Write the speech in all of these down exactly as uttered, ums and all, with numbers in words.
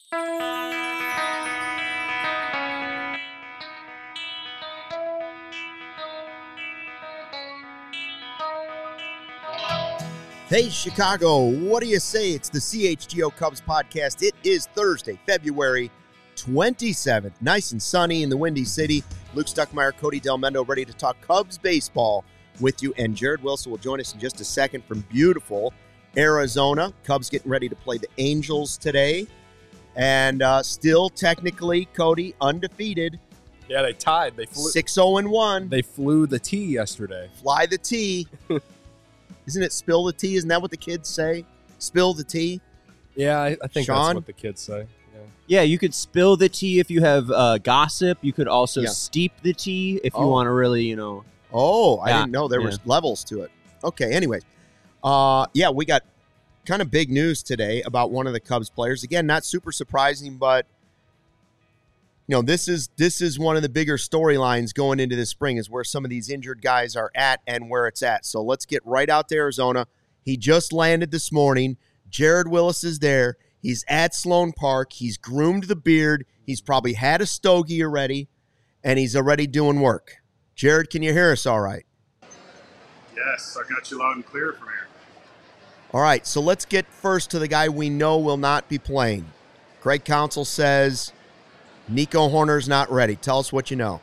Hey, Chicago, what do you say? It's the C H G O Cubs podcast. It is Thursday, February twenty-seventh. Nice and sunny in the Windy City. Luke Stuckmeyer, Cody Del Mendo, ready to talk Cubs baseball with you. And Jared Wilson will join us in just a second from beautiful Arizona. Cubs getting ready to play the Angels today. And uh, still technically, Cody, undefeated. Yeah, they tied. They flew six oh and one. They flew the T yesterday. Fly the T. Isn't it spill the tea? Isn't that what the kids say? Spill the tea? Yeah, I, I think Sean? that's what the kids say. Yeah, yeah, you could spill the tea if you have uh, gossip. You could also Yeah. steep the tea if you Oh. want to really, you know. Oh, I Yeah, didn't know there yeah. was levels to it. Okay, anyways. Uh, yeah, we got kind of big news today about one of the Cubs players. Again, not super surprising, but you know, this is this is one of the bigger storylines going into this spring is where some of these injured guys are at and where it's at. So let's get right out to Arizona. He just landed this morning. Jared Willis is there. He's at Sloan Park. He's groomed the beard. He's probably had a stogie already, and he's already doing work. Jared, can you hear us all right? Yes, I got you loud and clear from here. All right, so let's get first to the guy we know will not be playing. Craig Counsell says Nico Hoerner's not ready. Tell us what you know.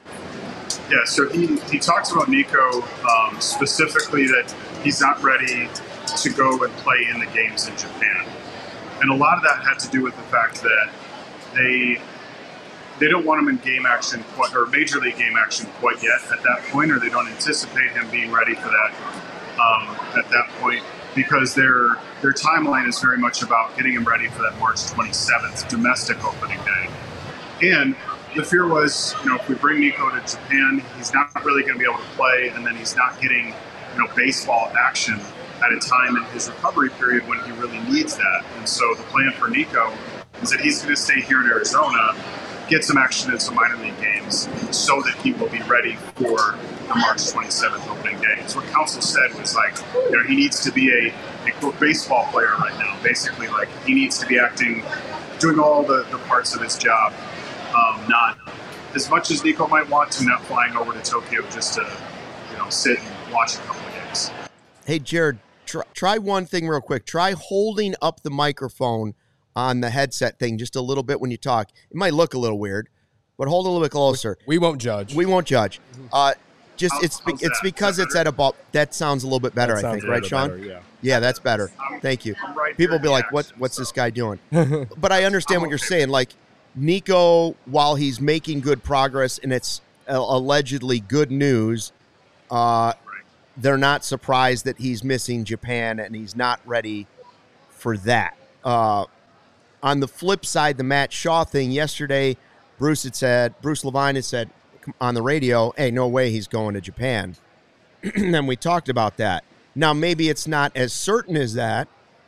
Yeah, so he, he talks about Nico um, specifically that he's not ready to go and play in the games in Japan. And a lot of that had to do with the fact that they they don't want him in game action quite, or major league game action quite yet at that point, or they don't anticipate him being ready for that um, at that point, because their their timeline is very much about getting him ready for that March twenty-seventh domestic opening day. And the fear was, you know, if we bring Nico to Japan, he's not really going to be able to play, and then he's not getting, you know, baseball action at a time in his recovery period when he really needs that. And so the plan for Nico is that he's going to stay here in Arizona, get some action in some minor league games, so that he will be ready for the March twenty-seventh opening day. So what Counsell said was like, you know, he needs to be a, a quote, baseball player right now. Basically, like, he needs to be acting, doing all the, the parts of his job. Um, not as much as Nico might want to, not flying over to Tokyo just to, you know, sit and watch a couple of games. Hey, Jared, try, try one thing real quick. Try holding up the microphone on the headset thing just a little bit when you talk. It might look a little weird, but hold it a little bit closer. We won't judge. We won't judge. Uh, just How- it's be, how's it's that? because Is that it's at about that sounds a little bit better, That I sounds think, a right, little Sean? better, yeah. Yeah, that's better. I'm- Thank you. I'm right People here will be in like, the "What? action, What's so. this guy doing?" But I understand what you're saying. Like Nico, while he's making good progress and it's uh, allegedly good news, uh, they're not surprised that he's missing Japan and he's not ready for that. Uh, on the flip side, the Matt Shaw thing yesterday, Bruce had said, Bruce Levine had said on the radio, "Hey, no way he's going to Japan." And we talked about that. Now, maybe it's not as certain as that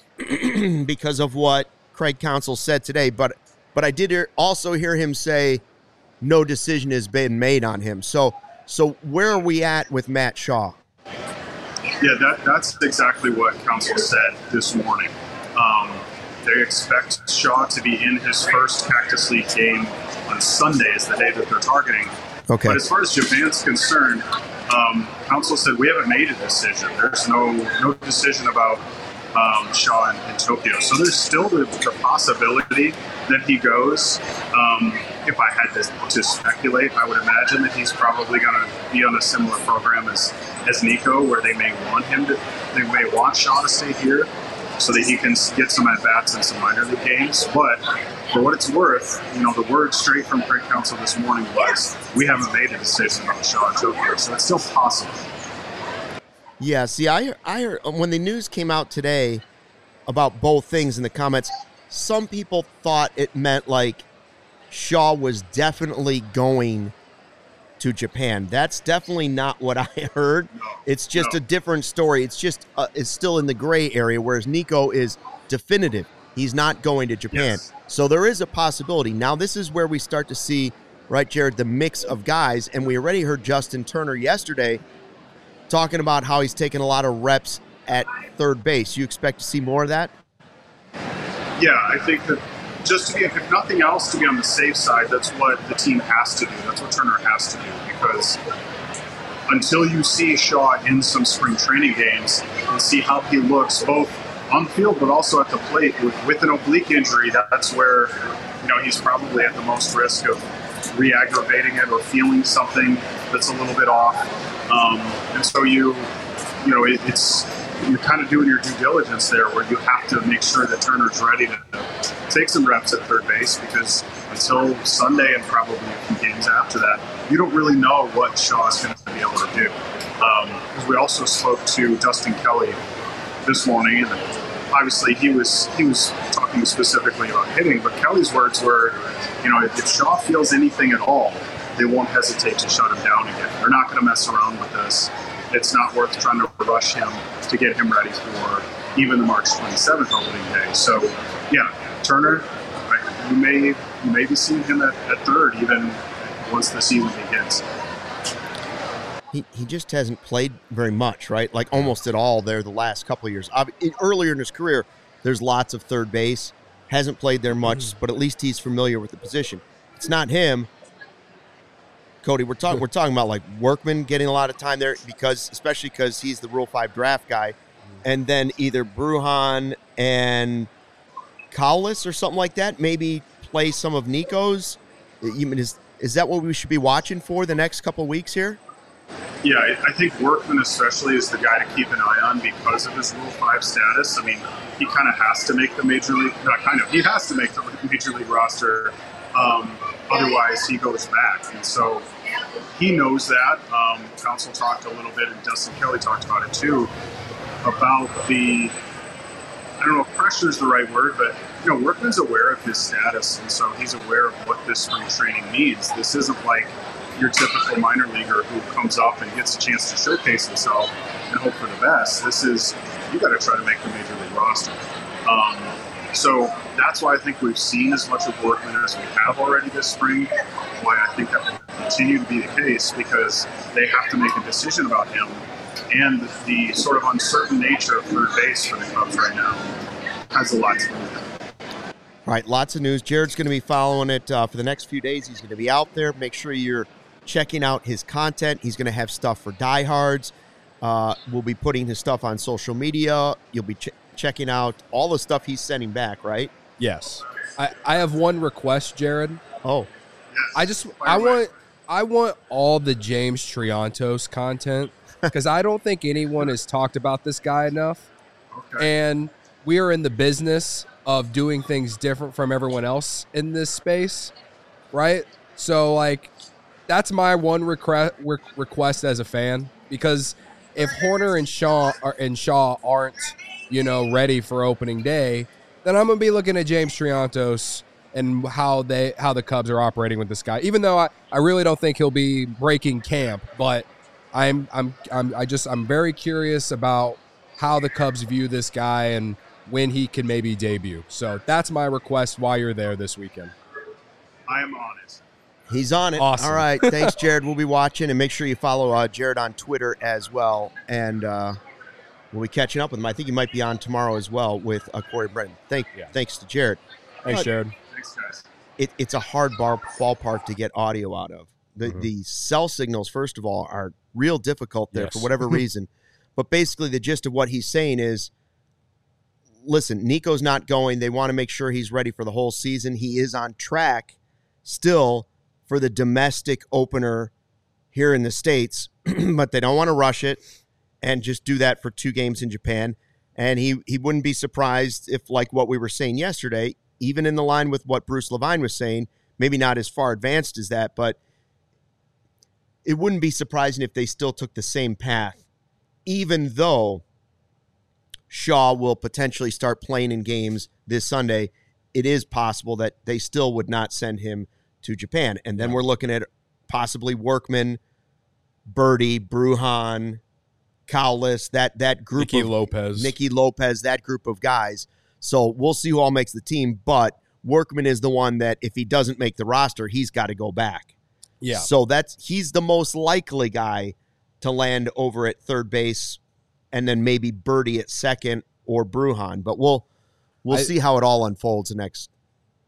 because of what Craig Counsell said today, but but I did hear, also hear him say no decision has been made on him. So so where are we at with Matt Shaw? Yeah, that, that's exactly what Counsell said this morning. Um, they expect Shaw to be in his first Cactus League game on Sunday is the day that they're targeting. Okay. But as far as Japan's concerned, um, Counsell said we haven't made a decision. There's no no decision about um, Shaw in, in Tokyo. So there's still the, the possibility that he goes. Um, if I had to, to speculate, I would imagine that he's probably going to be on a similar program as, as Nico, where they may want him to, they may want Shaw to stay here so that he can get some at-bats in some minor league games. But for what it's worth, you know, the word straight from Craig Counsell this morning was, we haven't made a decision about Shaw in Tokyo, so it's still possible. Yeah, see, I, I heard, when the news came out today about both things in the comments, some people thought it meant like Shaw was definitely going to Japan. That's definitely not what I heard. No, It's just no. a different story. It's just uh, it's still in the gray area, whereas Nico is definitive. He's not going to Japan. Yes. So there is a possibility. Now this is where we start to see, right, Jared, the mix of guys. And we already heard Justin Turner yesterday talking about how he's taking a lot of reps at third base. You expect to see more of that? Yeah, I think that just to be, if nothing else, to be on the safe side, that's what the team has to do. That's what Turner has to do, because until you see Shaw in some spring training games and see how he looks both on the field but also at the plate with, with an oblique injury, that's where, you know, he's probably at the most risk of re-aggravating it or feeling something that's a little bit off. Um, and so you, you know, it, it's, you're kind of doing your due diligence there, where you have to make sure that Turner's ready to take some reps at third base, because until Sunday and probably a few games after that, you don't really know what Shaw's going to be able to do. Um, we also spoke to Dustin Kelly this morning, and obviously he was he was talking specifically about hitting, but Kelly's words were, you know, if Shaw feels anything at all, they won't hesitate to shut him down again. They're not going to mess around with this. It's not worth trying to rush him to get him ready for even the March twenty-seventh opening day. So, yeah, Turner, you may you may be seeing him at, at third even once the season begins. He he just hasn't played very much, right? Like almost at all there the last couple of years. Earlier in his career, there's lots of third base. Hasn't played there much, but at least he's familiar with the position. It's not him. Cody, we're talking we're talking about like Workman getting a lot of time there, because especially because he's the Rule five draft guy, and then either Brujan and Cowles or something like that maybe play some of Nico's. Is is that what we should be watching for the next couple of weeks here? Yeah, I think Workman especially is the guy to keep an eye on because of his Rule five status. I mean, he kind of has to make the major league. Not kind of. He has to make the major league roster. Um, otherwise, he goes back, and so he knows that. Um, Council talked a little bit, and Dustin Kelly talked about it too, about the, I don't know if pressure is the right word, but you know, Workman's aware of his status, and so he's aware of what this spring training means. This isn't like your typical minor leaguer who comes up and gets a chance to showcase himself and hope for the best. This is, you got to try to make the major league roster. Um, So that's why I think we've seen as much of Workman as we have already this spring, why I think that will continue to be the case, because they have to make a decision about him, and the sort of uncertain nature of third base for the Cubs right now has a lot to do with it. All right, lots of news. Jared's going to be following it uh, for the next few days. He's going to be out there. Make sure you're checking out his content. He's going to have stuff for diehards. Uh, we'll be putting his stuff on social media. You'll be ch- checking out all the stuff he's sending back, right? Yes. I, I have one request, Jared. Oh. I just I want I want all the James Triantos content, because I don't think anyone has talked about this guy enough. Okay. And we are in the business of doing things different from everyone else in this space, right? So, like, that's my one recre- re- request as a fan, because if Horner and Shaw are, and Shaw aren't, you know, ready for opening day, then I'm going to be looking at James Triantos and how they how the Cubs are operating with this guy. Even though I, I really don't think he'll be breaking camp, but I'm I'm I'm I just I'm very curious about how the Cubs view this guy and when he can maybe debut. So that's my request while you're there this weekend. I am on it. He's on it. Awesome. All right. Thanks, Jared. We'll be watching, and make sure you follow uh, Jared on Twitter as well. And uh, we'll be catching up with him. I think he might be on tomorrow as well with uh, Corey Brennan. Thank, Yeah. Thanks to Jared. Thanks, Uh, Jared. Thanks, guys. It, it's a hard bar, ballpark to get audio out of. The, Mhm. the cell signals, first of all, are real difficult there Yes. for whatever reason. But basically, the gist of what he's saying is, listen, Nico's not going. They want to make sure he's ready for the whole season. He is on track still for the domestic opener here in the States, but they don't want to rush it and just do that for two games in Japan. And he, he wouldn't be surprised if, like what we were saying yesterday, even in the line with what Bruce Levine was saying, maybe not as far advanced as that, but it wouldn't be surprising if they still took the same path, even though Shaw will potentially start playing in games this Sunday. It is possible that they still would not send him to Japan. And then we're looking at possibly Workman, Birdie, Brujan, Cowles, that that group Nicky of Lopez. Nicky Lopez, that group of guys. So we'll see who all makes the team, but Workman is the one that if he doesn't make the roster, he's got to go back. Yeah. So that's he's the most likely guy to land over at third base, and then maybe Birdie at second or Brujan. But we'll we'll I- see how it all unfolds the next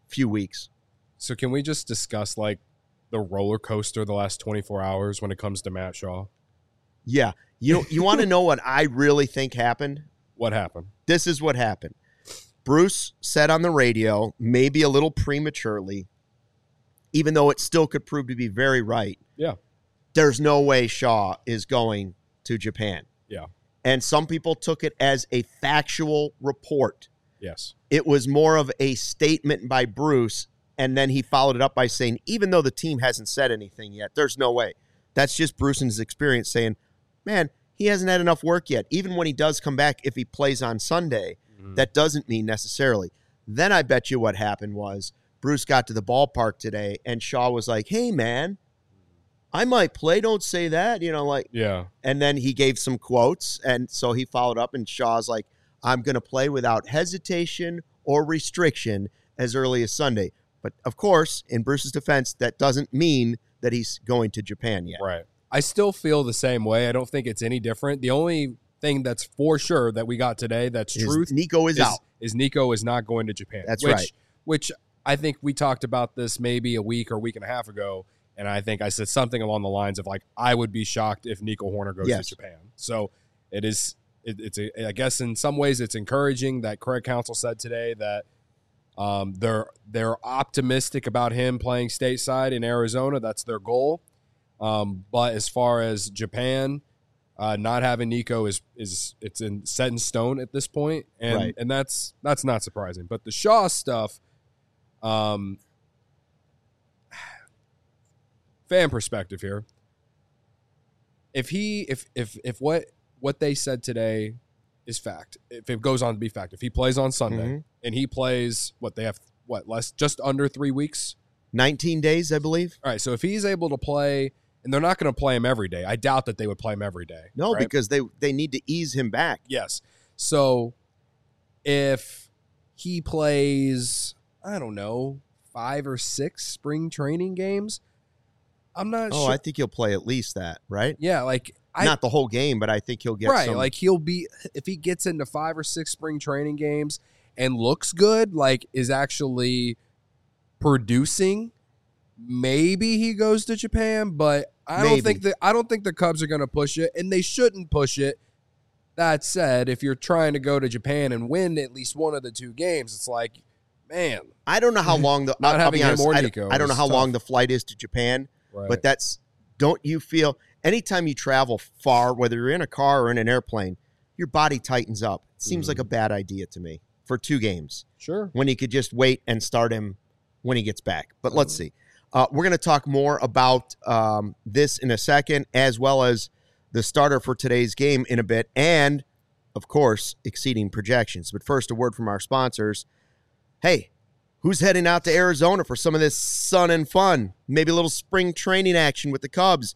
few weeks. So can we just discuss like the roller coaster the last twenty-four hours when it comes to Matt Shaw? Yeah. You you want to know what I really think happened? What happened? This is what happened. Bruce said on the radio, maybe a little prematurely, even though it still could prove to be very right. Yeah. There's no way Shaw is going to Japan. Yeah. And some people took it as a factual report. Yes. It was more of a statement by Bruce, and then he followed it up by saying, even though the team hasn't said anything yet, there's no way. That's just Bruce and his experience saying, man, he hasn't had enough work yet. Even when he does come back, if he plays on Sunday, mm-hmm. that doesn't mean necessarily. Then I bet you what happened was Bruce got to the ballpark today, and Shaw was like, hey, man, I might play. Don't say that. You know, like, yeah. And then he gave some quotes, and so he followed up, and Shaw's like, I'm going to play without hesitation or restriction as early as Sunday. But, of course, in Bruce's defense, that doesn't mean that he's going to Japan yet. Right. I still feel the same way. I don't think it's any different. The only thing that's for sure that we got today that's is truth Nico is, is out. Is Nico is not going to Japan. That's which, right. Which I think we talked about this maybe a week or a week and a half ago, and I think I said something along the lines of like, I would be shocked if Nico Horner goes yes. to Japan. So it is, it, it's, a, I guess in some ways it's encouraging that Craig Counsell said today that um, they're they're optimistic about him playing stateside in Arizona. That's their goal. Um, but as far as Japan, uh, not having Nico is is it's in set in stone at this point, and right. and that's that's not surprising. But the Shaw stuff, um, fan perspective here. If he if if if what what they said today is fact, if it goes on to be fact, if he plays on Sunday mm-hmm. and he plays what they have what less just under three weeks, nineteen days, I believe. All right, so if he's able to play. And they're not going to play him every day. I doubt that they would play him every day. No, right? because they, they need to ease him back. Yes. So if he plays, I don't know, five or six spring training games, I'm not oh, sure. I think he'll play at least that, right? Yeah, like I, not the whole game, but I think he'll get right. some. Like he'll be if he gets into five or six spring training games and looks good, like is actually producing. Maybe he goes to Japan, but I Maybe. don't think that I don't think the Cubs are going to push it, and they shouldn't push it. That said, if you're trying to go to Japan and win at least one of the two games, it's like, man, I don't know how long the not I'll, having I'll be honest, him or I, Nico don't, I don't know is how tough. long the flight is to Japan, Right. but that's don't you feel anytime you travel far, whether you're in a car or in an airplane, your body tightens up. It seems Mm. like a bad idea to me for two games Sure. when you could just wait and start him when he gets back. But let's see. Uh, we're going to talk more about um, this in a second, as well as the starter for today's game in a bit, and, of course, exceeding projections. But first, a word from our sponsors. Hey, who's heading out to Arizona for some of this sun and fun? Maybe a little spring training action with the Cubs.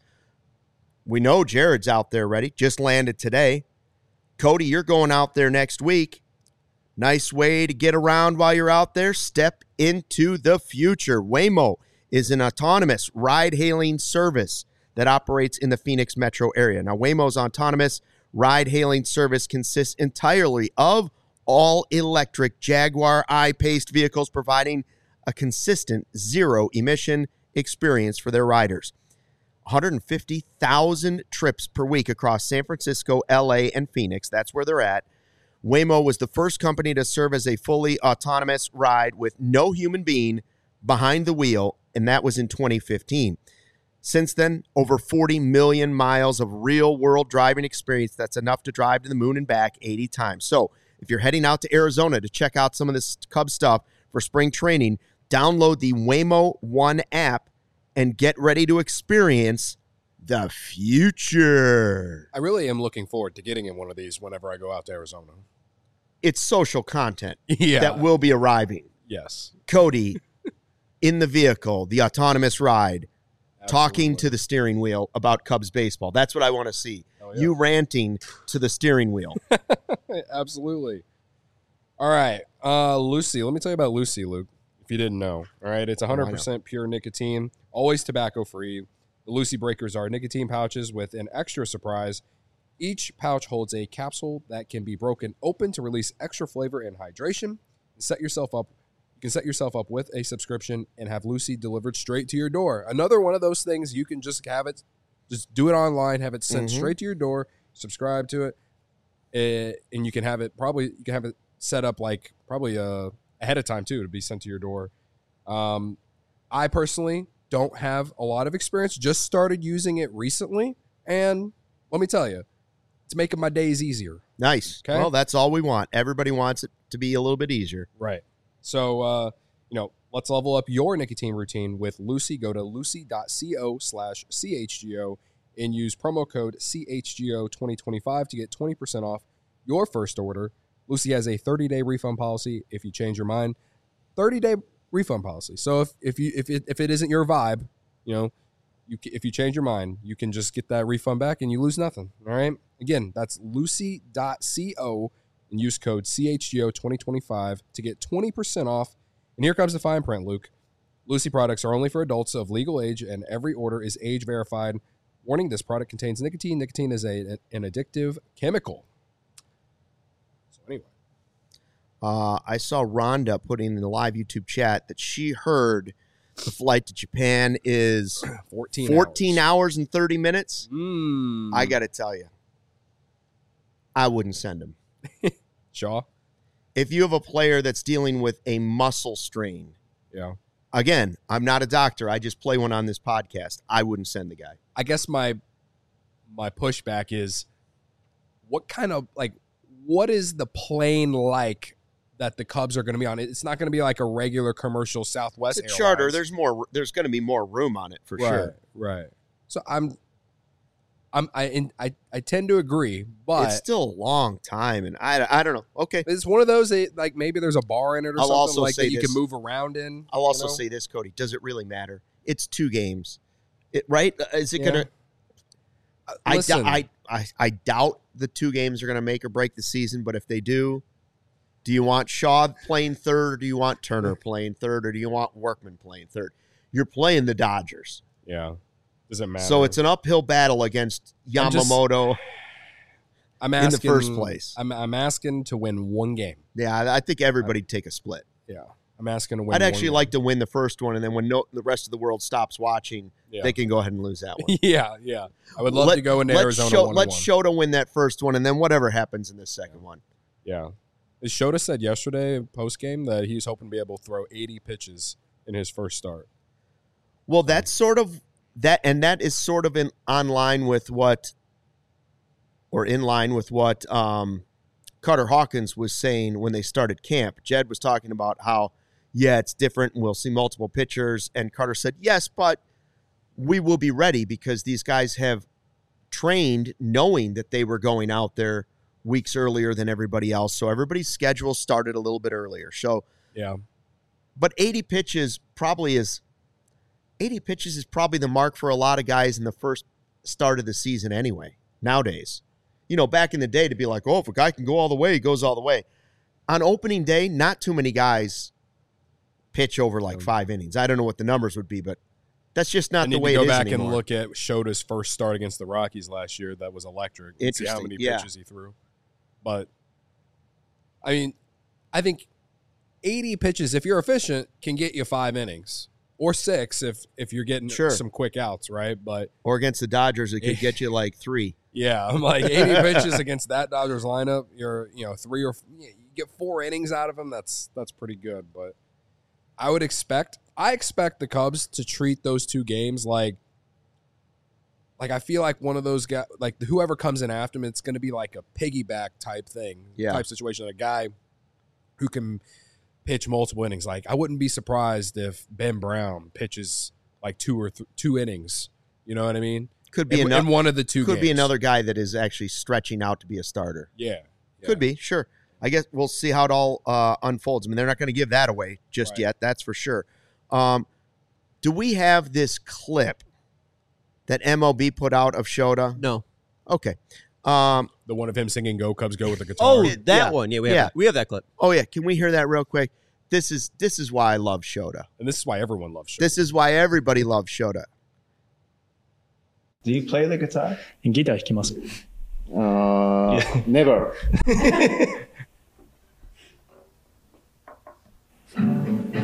We know Jared's out there ready. Just landed today. Cody, you're going out there next week. Nice way to get around while you're out there. Step into the future. Waymo is an autonomous ride-hailing service that operates in the Phoenix metro area. Now, Waymo's autonomous ride-hailing service consists entirely of all-electric Jaguar I-Paced vehicles, providing a consistent zero-emission experience for their riders. one hundred fifty thousand trips per week across San Francisco, L A, and Phoenix. That's where they're at. Waymo was the first company to serve as a fully autonomous ride with no human being behind the wheel, and that was in twenty fifteen. Since then, over forty million miles of real-world driving experience. That's enough to drive to the moon and back eighty times. So if you're heading out to Arizona to check out some of this Cub stuff for spring training, download the Waymo One app and get ready to experience the future. I really am looking forward to getting in one of these whenever I go out to Arizona. It's social content Yeah. that will be arriving. Yes. Cody in the vehicle, the autonomous ride, talking Absolutely. to the steering wheel about Cubs baseball. That's what I want to see. Oh, yeah. You ranting to the steering wheel. Absolutely. All right. Uh, Lucy, let me tell you about Lucy, Luke, if you didn't know. All right. It's one hundred percent pure nicotine, always tobacco free. The Lucy Breakers are nicotine pouches with an extra surprise. Each pouch holds a capsule that can be broken open to release extra flavor and hydration. Set yourself up You can set yourself up with a subscription and have Lucy delivered straight to your door. Another one of those things you can just have it, just do it online, have it sent Mhm. straight to your door, subscribe to it, eh, and you can have it probably you can have it set up like probably uh, ahead of time too to be sent to your door. Um, I personally don't have a lot of experience. Just started using it recently, and let me tell you, it's making my days easier. Nice. Okay. Well, that's all we want. Everybody wants it to be a little bit easier. Right. So, uh, you know, let's level up your nicotine routine with Lucy. Go to lucy.co slash CHGO and use promo code C H G O twenty twenty-five to get twenty percent off your first order. Lucy has a thirty-day refund policy if you change your mind. thirty-day refund policy. So if if you if it if it isn't your vibe, you know, you if you change your mind, you can just get that refund back and you lose nothing. All right. Again, that's lucy.co and use code C H G O twenty twenty-five to get twenty percent off. And here comes the fine print, Luke. Lucy products are only for adults of legal age, and every order is age verified. Warning, this product contains nicotine. Nicotine is a, an addictive chemical. So anyway. Uh, I saw Rhonda putting in the live YouTube chat that she heard the flight to Japan is fourteen, fourteen hours. hours and thirty minutes. Mm. I got to tell you, I wouldn't send him. Shaw? If you have a player that's dealing with a muscle strain, Yeah. again, I'm not a doctor. I just play one on this podcast. I wouldn't send the guy. I guess my my pushback is what kind of, like, what is the plane like that the Cubs are going to be on? It's not going to be like a regular commercial Southwest It's a Airlines. charter. There's more. There's going to be more room on it for right, sure. Right. So I'm, I'm, I, in, I, I tend to agree, but It's still a long time, and I, I don't know. Okay, it's one of those that, like, maybe there's a bar in it or I'll something also like say that you this. can move around in. I'll also you know? say this, Cody. Does it really matter? It's two games, it, right? Is it Yeah. gonna? Uh, I, listen, dou- I, I I doubt the two games are gonna make or break the season. But if they do, do you want Shaw playing third, or do you want Turner playing third, or do you want Workman playing third? You're playing the Dodgers, yeah, doesn't matter. so it's an uphill battle against I'm just- Yamamoto. I'm in the asking, first place. I'm, I'm asking to win one game. Yeah, I, I think everybody'd take a split. Yeah, I'm asking to win. I'd one actually game. like to win the first one, and then when no, the rest of the world stops watching, Yeah. they can go ahead and lose that one. yeah, yeah. I would love Let- to go into let Arizona. Sho- one let one. Shota win that first one, and then whatever happens in this second one. Yeah. As Shota said yesterday post game that he's hoping to be able to throw eighty pitches in his first start. Well, that's sort of that, and that is sort of in on line with what, or in line with what um, Carter Hawkins was saying when they started camp. Jed was talking about how, yeah, it's different, and we'll see multiple pitchers. And Carter said, yes, but we will be ready because these guys have trained knowing that they were going out there weeks earlier than everybody else. So everybody's schedule started a little bit earlier. So, Yeah. but eighty pitches probably is eighty pitches is probably the mark for a lot of guys in the first start of the season anyway. Nowadays, you know, back in the day to be like, oh, if a guy can go all the way, he goes all the way. On opening day, not too many guys pitch over like five innings. I don't know what the numbers would be, but that's just not I the need way to go it is back anymore. and look at Shota's first start against the Rockies last year. That was electric. And see how Interesting, many yeah. pitches he threw. But I mean, I think eighty pitches, if you're efficient, can get you five innings or six if if you're getting Sure. some quick outs, right? But Or against the Dodgers, it could get you like three. yeah, I'm like eighty pitches against that Dodgers lineup. You're you know three or yeah, you get four innings out of them. That's that's pretty good. But I would expect I expect the Cubs to treat those two games like like I feel like one of those guys, like whoever comes in after him, it's going to be like a piggyback type thing, Yeah. type situation. A guy who can pitch multiple innings. Like I wouldn't be surprised if Ben Brown pitches like two or th- two innings. You know what I mean? Could be in, another. in one of the two. Could be games. another guy that is actually stretching out to be a starter. Yeah, yeah. Could be, sure. I guess we'll see how it all uh, unfolds. I mean, they're not going to give that away just Right. yet. That's for sure. Um, do we have this clip that M L B put out of Shota? No. Okay. Um, The one of him singing "Go Cubs Go" with the guitar. Oh, It- that yeah. one. Yeah, we have, Yeah. That. we have that clip. oh yeah, can we hear that real quick? This is this is why I love Shota. and this is why everyone loves Shota. This is why everybody loves Shota. Do you play the guitar? ギター弾きます。 Uh, never.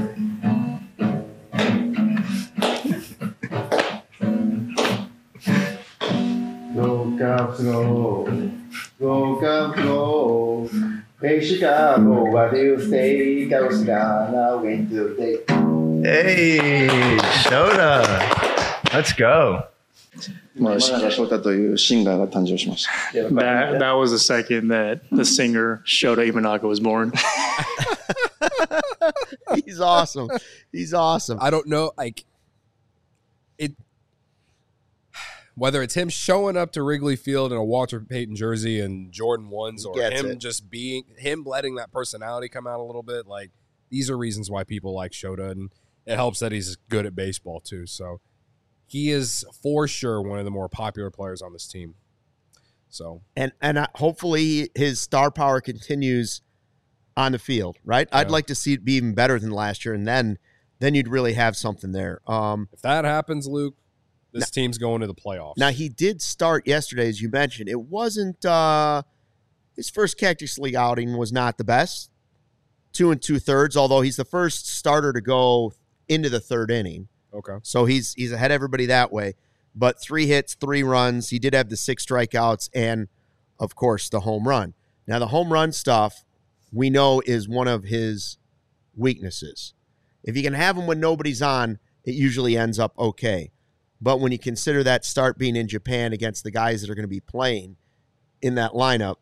Cubs go, go Cubs go. Hey Chicago, what do you say? Cubs gonna win today. Hey, Shota. Let's go. まあ、山中翔太というシンガーが誕生しました。 That that was the second that the singer Shota Imanaga was born. He's awesome. He's awesome. I don't know, like it. Whether it's him showing up to Wrigley Field in a Walter Payton jersey and Jordan ones, or Gets him it. just being him letting that personality come out a little bit, like these are reasons why people like Shota, and it helps that he's good at baseball too. So he is for sure one of the more popular players on this team. So And and uh, hopefully his star power continues on the field, right? I'd Yeah. like to see it be even better than last year, and then then you'd really have something there. Um, if that happens, Luke, this team's going to the playoffs. now, he did start yesterday, as you mentioned. It wasn't uh, his first Cactus League outing was not the best. Two and two thirds, although he's the first starter to go into the third inning. Okay. So he's he's ahead of everybody that way. But three hits, three runs. He did have the six strikeouts and, of course, the home run. Now, the home run stuff we know is one of his weaknesses. If you can have him when nobody's on, it usually ends up okay. But when you consider that start being in Japan against the guys that are going to be playing in that lineup,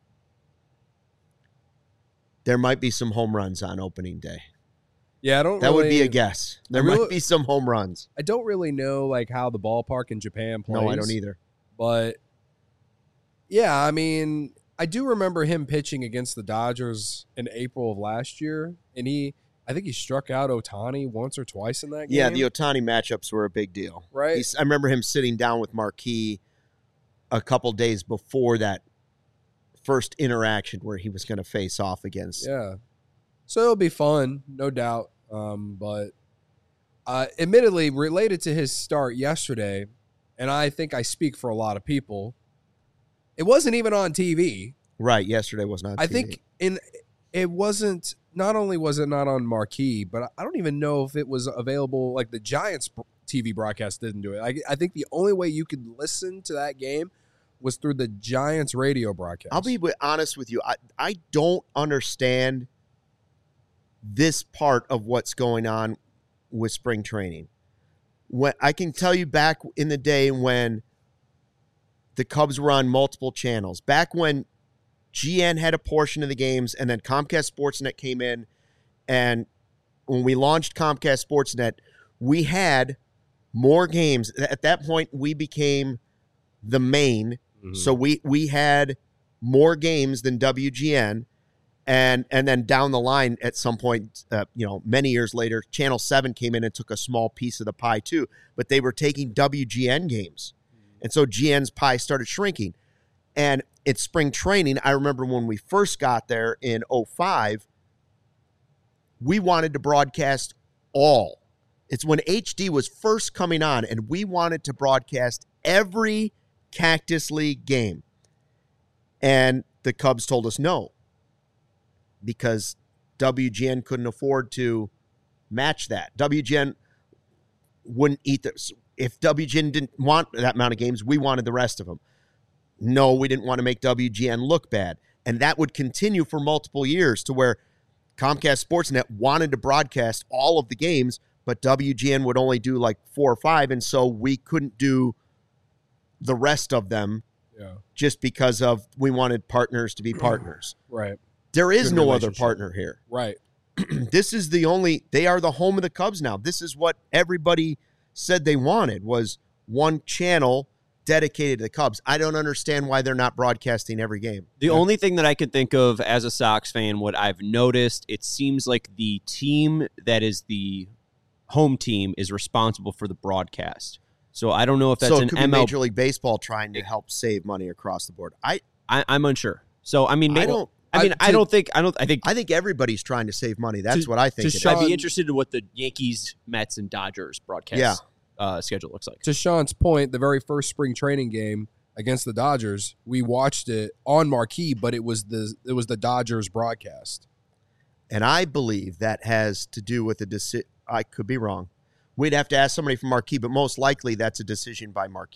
there might be some home runs on opening day. Yeah, I don't. That would be really- a guess. There I really- might be some home runs. I don't really know like how the ballpark in Japan plays. No, I don't either. But yeah, I mean, I do remember him pitching against the Dodgers in April of last year, and he, I think he struck out Ohtani once or twice in that game. Yeah, the Ohtani matchups were a big deal. Right. He's, I remember him sitting down with Marquis a couple days before that first interaction where he was going to face off against. Yeah. So it'll be fun, no doubt. Um, but uh, admittedly, related to his start yesterday, and I think I speak for a lot of people, it wasn't even on T V. Right. Yesterday was not. I T V. think in it wasn't. Not only was it not on Marquee, but I don't even know if it was available. Like the Giants T V broadcast didn't do it. I, I think the only way you could listen to that game was through the Giants radio broadcast. I'll be wi- honest with you. I, I don't understand this part of what's going on with spring training. When I can tell you back in the day when the Cubs were on multiple channels, back when G N had a portion of the games and then Comcast Sportsnet came in, and when we launched Comcast Sportsnet, we had more games. At that point, we became the main. Mhm. So we we had more games than W G N, and and then down the line at some point, uh, you know, many years later, Channel seven came in and took a small piece of the pie too. But they were taking W G N games, and so G N's pie started shrinking. And it's spring training. I remember when we first got there in oh five, we wanted to broadcast all. It's when H D was first coming on, and we wanted to broadcast every Cactus League game. And the Cubs told us no, because W G N couldn't afford to match that. W G N wouldn't eat the, if W G N didn't want that amount of games, we wanted the rest of them. No, we didn't want to make W G N look bad. And that would continue for multiple years to where Comcast Sportsnet wanted to broadcast all of the games, but W G N would only do like four or five, and so we couldn't do the rest of them Yeah. just because of we wanted partners to be partners. Right. There is Good no other relationship. partner here. Right. This is the only, they are the home of the Cubs now. This is what everybody said they wanted, was one channel dedicated to the Cubs. I don't understand why they're not broadcasting every game. The only thing that I could think of as a Sox fan, what I've noticed, it seems like the team that is the home team is responsible for the broadcast. So I don't know if that's so it an could be M L B. Major League Baseball trying to help save money across the board. I, I, I'm unsure. So I mean, I maybe, don't. I mean, I- I, don't think I don't. I think I think everybody's trying to save money. That's To- what I think. to it is. Sean- I'd be interested in what the Yankees, Mets, and Dodgers broadcast Yeah. uh, schedule looks like. To Sean's point, the very first spring training game against the Dodgers, we watched it on Marquee, but it was the it was the Dodgers broadcast. And I believe that has to do with a decision. I could be wrong. We'd have to ask somebody from Marquee, but most likely that's a decision by Marquee.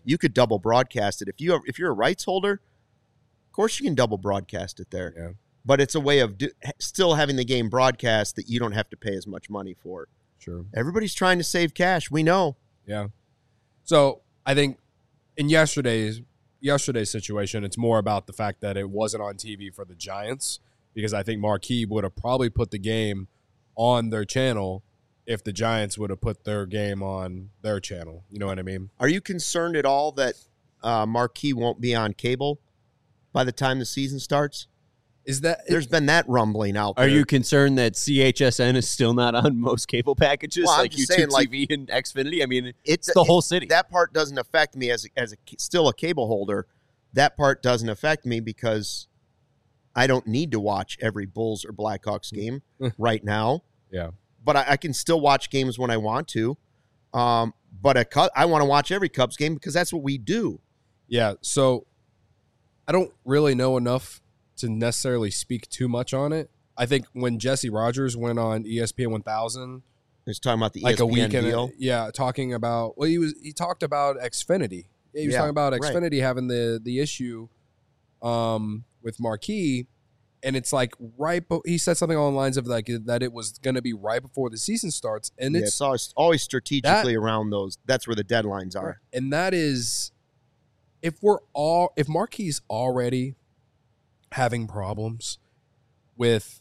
you could double broadcast it. If you if you're a rights holder, of course you can double broadcast it there. Yeah. But it's a way of do, still having the game broadcast that you don't have to pay as much money for. Sure. Everybody's trying to save cash. We know. Yeah. So I think in yesterday's yesterday's situation, it's more about the fact that it wasn't on T V for the Giants, because I think Marquee would have probably put the game on their channel if the Giants would have put their game on their channel. You know what I mean? Are you concerned at all that uh, Marquee won't be on cable by the time the season starts? Is that There's been that rumbling out there. Are you concerned that C H S N is still not on most cable packages, Well, I'm like just YouTube saying, like, T V and Xfinity? I mean, It's it's the it- whole city. That part doesn't affect me as a, as a still a cable holder. That part doesn't affect me because I don't need to watch every Bulls or Blackhawks game right now. Yeah. But I, I can still watch games when I want to. Um, but a Cub, I want to watch every Cubs game because that's what we do. Yeah. So I don't really know enough to necessarily speak too much on it. I think when Jesse Rogers went on E S P N one thousand, It's talking about the like E S P N a weekend, deal. yeah, talking about well, he was he talked about Xfinity. Yeah, he was Yeah, talking about right. Xfinity having the the issue um, with Marquee, and it's like right. Be- he said something along the lines of like that it was going to be right before the season starts, and Yeah, it's, it's always, always strategically around those. That's where the deadlines are. and that is if we're all if Marquee's already having problems with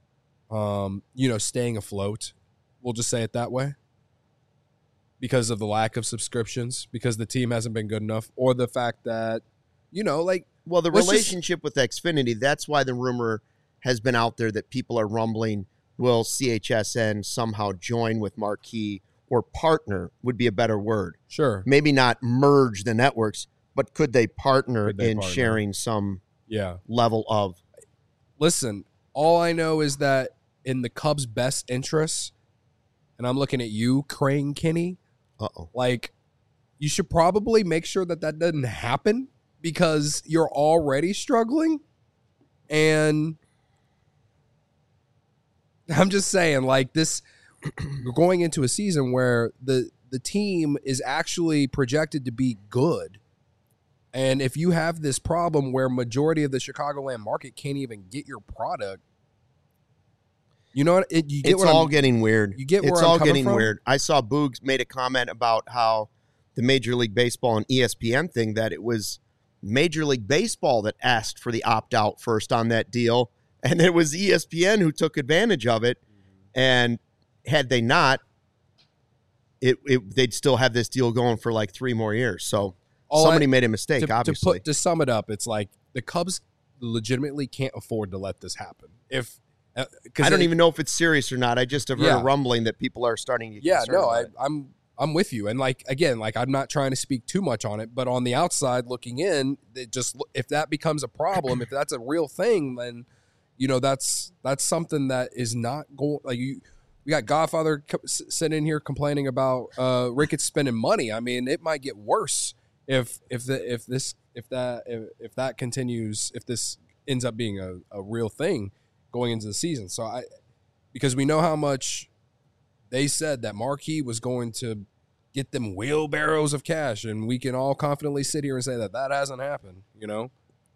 um you know staying afloat, we'll just say it that way, because of the lack of subscriptions, because the team hasn't been good enough, or the fact that you know like Well, the Let's just- relationship with Xfinity, that's why the rumor has been out there that people are rumbling, will C H S N somehow join with Marquee, or partner would be a better word. sure Maybe not merge the networks, but could they partner Could they in partner? sharing some yeah level of listen, all I know is that in the Cubs' best interests, and I'm looking at you, Crane Kinney, uh-oh. like you should probably make sure that that doesn't happen, because you're already struggling. And I'm just saying, like this, we're going into a season where the the team is actually projected to be good. And if you have this problem where majority of the Chicagoland market can't even get your product, you know what? It, you get It's what all I'm, getting weird. you get where it's I'm all coming getting from? weird. I saw Boogs made a comment about how the Major League Baseball and E S P N thing, that it was Major League Baseball that asked for the opt-out first on that deal, and it was E S P N who took advantage of it. And had they not, it, it they'd still have this deal going for like three more years. So All somebody I- made a mistake, to, to obviously. put to sum it up, it's like the Cubs legitimately can't afford to let this happen. If uh, 'cause I don't it- even know if it's serious or not. I just have heard Yeah. a rumbling that people are starting to get yeah, concerned no, about I, it. I'm I'm with you, and like again, like I'm not trying to speak too much on it, but on the outside looking in, it just if that becomes a problem, if that's a real thing, then you know that's that's something that is not going like you. We got Godfather co- s- sitting in here complaining about uh, Ricketts spending money. I mean, it might get worse if if the if this if that if, if that continues, if this ends up being a, a real thing going into the season. So I because we know how much they said that Marquee was going to get them wheelbarrows of cash, and we can all confidently sit here and say that that hasn't happened, you know?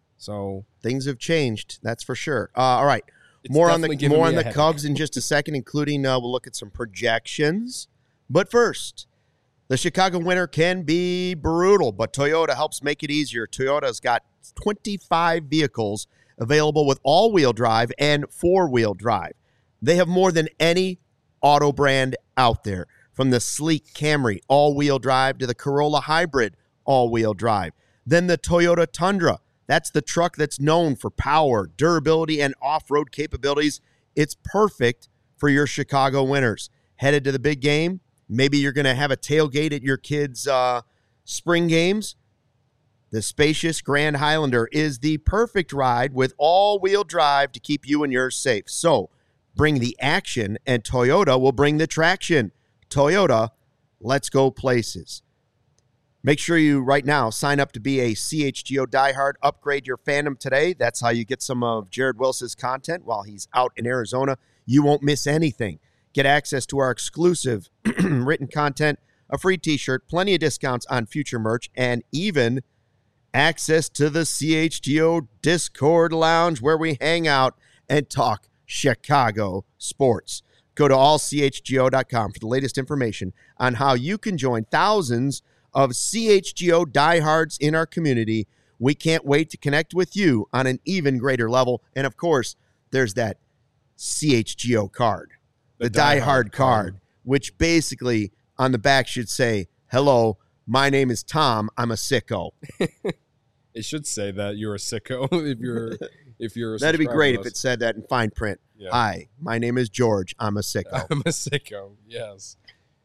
So Things have changed, that's for sure. Uh, all right. it's More on the definitely giving more me on a the headache. Cubs in just a second, including uh, we'll look at some projections. But first, the Chicago winter can be brutal, but Toyota helps make it easier. Toyota's got twenty-five vehicles available with all-wheel drive and four-wheel drive. They have more than any auto brand out there, from the sleek Camry all-wheel drive to the Corolla Hybrid all-wheel drive. Then the Toyota Tundra. That's the truck that's known for power, durability, and off-road capabilities. It's perfect for your Chicago winters. Headed to the big game? Maybe you're going to have a tailgate at your kids' uh, spring games? The spacious Grand Highlander is the perfect ride with all-wheel drive to keep you and yours safe. So bring the action, and Toyota will bring the traction. Toyota, let's go places. Make sure you, right now, sign up to be a C H G O diehard. Upgrade your fandom today. That's how you get some of Jared Wils's content while he's out in Arizona. You won't miss anything. Get access to our exclusive written content a free t-shirt, plenty of discounts on future merch, and even access to the C H G O Discord Lounge where we hang out and talk Chicago sports. Go to all c h g o dot com for the latest information on how you can join thousands of C H G O diehards in our community. We can't wait to connect with you on an even greater level. And, of course, there's that C H G O card, the, the diehard, diehard card, card, which basically on the back should say, hello, my name is Tom. I'm a sicko. It should say that you're a sicko if you're if you're a That'd be great if it said that in fine print. Yeah. Hi, my name is George. I'm a sicko. I'm a sicko, yes.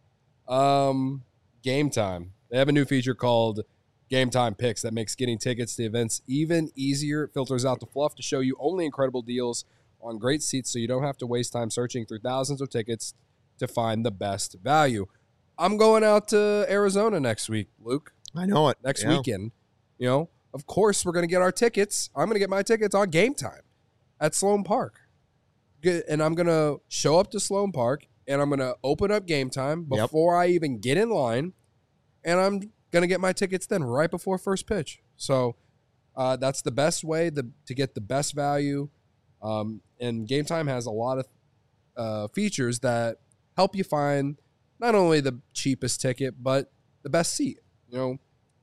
Um, Game Time. They have a new feature called Game Time Picks that makes getting tickets to events even easier. It filters out the fluff to show you only incredible deals on great seats so you don't have to waste time searching through thousands of tickets to find the best value. I'm going out to Arizona next week, Luke. I know it. Next yeah. weekend. You know, of course, we're going to get our tickets. I'm going to get my tickets on Game Time at Sloan Park. And I'm going to show up to Sloan Park, and I'm going to open up Game Time before yep. I even get in line, and I'm going to get my tickets then right before first pitch. So uh, that's the best way to, to get the best value. Um, and Game Time has a lot of uh, features that help you find not only the cheapest ticket, but the best seat. You know,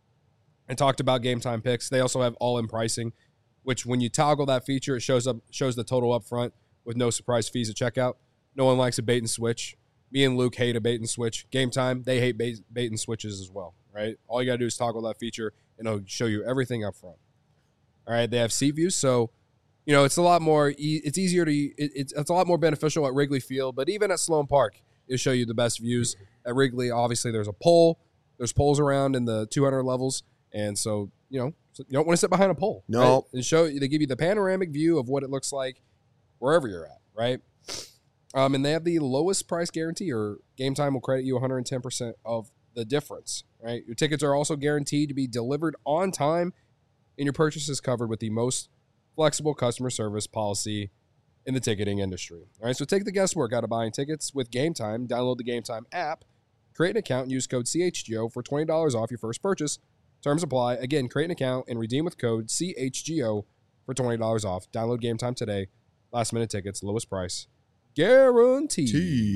I talked about Game Time Picks. They also have all-in pricing, which when you toggle that feature, it shows up shows the total up front with no surprise fees at checkout. No one likes a bait and switch. Me and Luke hate a bait and switch. Game Time, they hate bait, bait and switches as well, right? All you got to do is toggle that feature, and it'll show you everything up front. All right, they have seat views, so you know it's a lot more. E- it's easier to. It, it's it's a lot more beneficial at Wrigley Field, but even at Sloan Park, it'll show you the best views. At Wrigley, obviously, there's a pole. There's poles around in the two hundred levels, and so you know so you don't want to sit behind a pole. No, right? And show they give you the panoramic view of what it looks like wherever you're at, right? Um, and they have the lowest price guarantee, or Game Time will credit you one hundred ten percent of the difference, right? Your tickets are also guaranteed to be delivered on time, and your purchase is covered with the most flexible customer service policy in the ticketing industry. All right, so take the guesswork out of buying tickets with Game Time. Download the Game Time app, create an account, and use code C H G O for twenty dollars off your first purchase. Terms apply. Again, create an account and redeem with code C H G O for twenty dollars off. Download Game Time today. Last minute tickets, lowest price, guaranteed.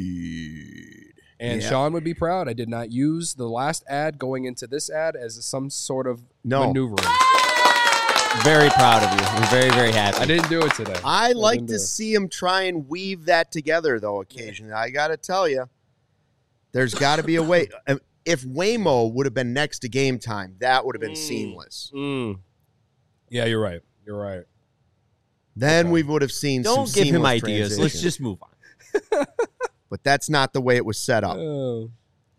Teed. And yeah. Sean would be proud. I did not use the last ad going into this ad as some sort of no. maneuvering. Very proud of you. I'm very, very happy. I didn't do it today. I, I like to see him try and weave that together, though, occasionally. I got to tell you, there's got to be a way. If Waymo would have been next to Game Time, that would have been mm. seamless. Mm. Yeah, you're right. You're right. Then okay. we would have seen Don't some give him ideas. transition. Let's just move on. But that's not the way it was set up. Oh.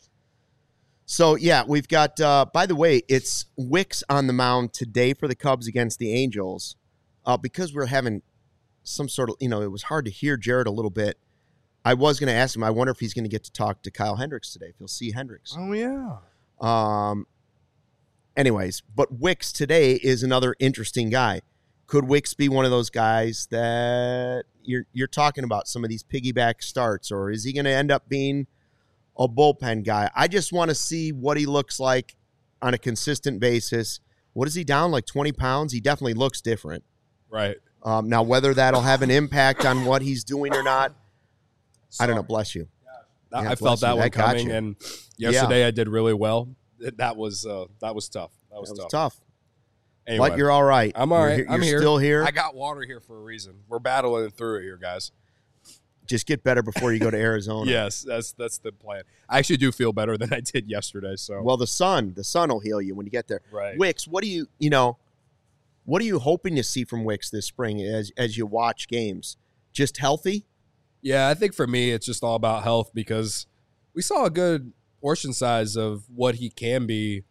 So, yeah, we've got, uh, by the way, it's Wicks on the mound today for the Cubs against the Angels. Uh, because we're having some sort of, you know, it was hard to hear Jared a little bit. I was going to ask him, I wonder if he's going to get to talk to Kyle Hendricks today, if he'll see Hendricks. Oh, yeah. Um. Anyways, but Wicks today is another interesting guy. Could Wicks be one of those guys that you're you're talking about, some of these piggyback starts, or is he going to end up being a bullpen guy? I just want to see what he looks like on a consistent basis. What is he down, like twenty pounds? He definitely looks different. Right. Um, now, whether that'll have an impact on what he's doing or not, Sorry. I don't know. Bless you. Yeah, yeah, I felt that you. one that coming, and yesterday yeah. I did really well. That was uh, that was tough. That was, that was tough. tough. Anyway, but you're all right. I'm all right. You're, I'm you're here. still here. I got water here for a reason. We're battling through it here, guys. Just get better before you go to Arizona. Yes, that's that's the plan. I actually do feel better than I did yesterday. So well, the sun, the sun will heal you when you get there. Right. Wicks, what do you, you know, what are you hoping to see from Wicks this spring as as you watch games? Just healthy? Yeah, I think for me it's just all about health, because we saw a good portion size of what he can be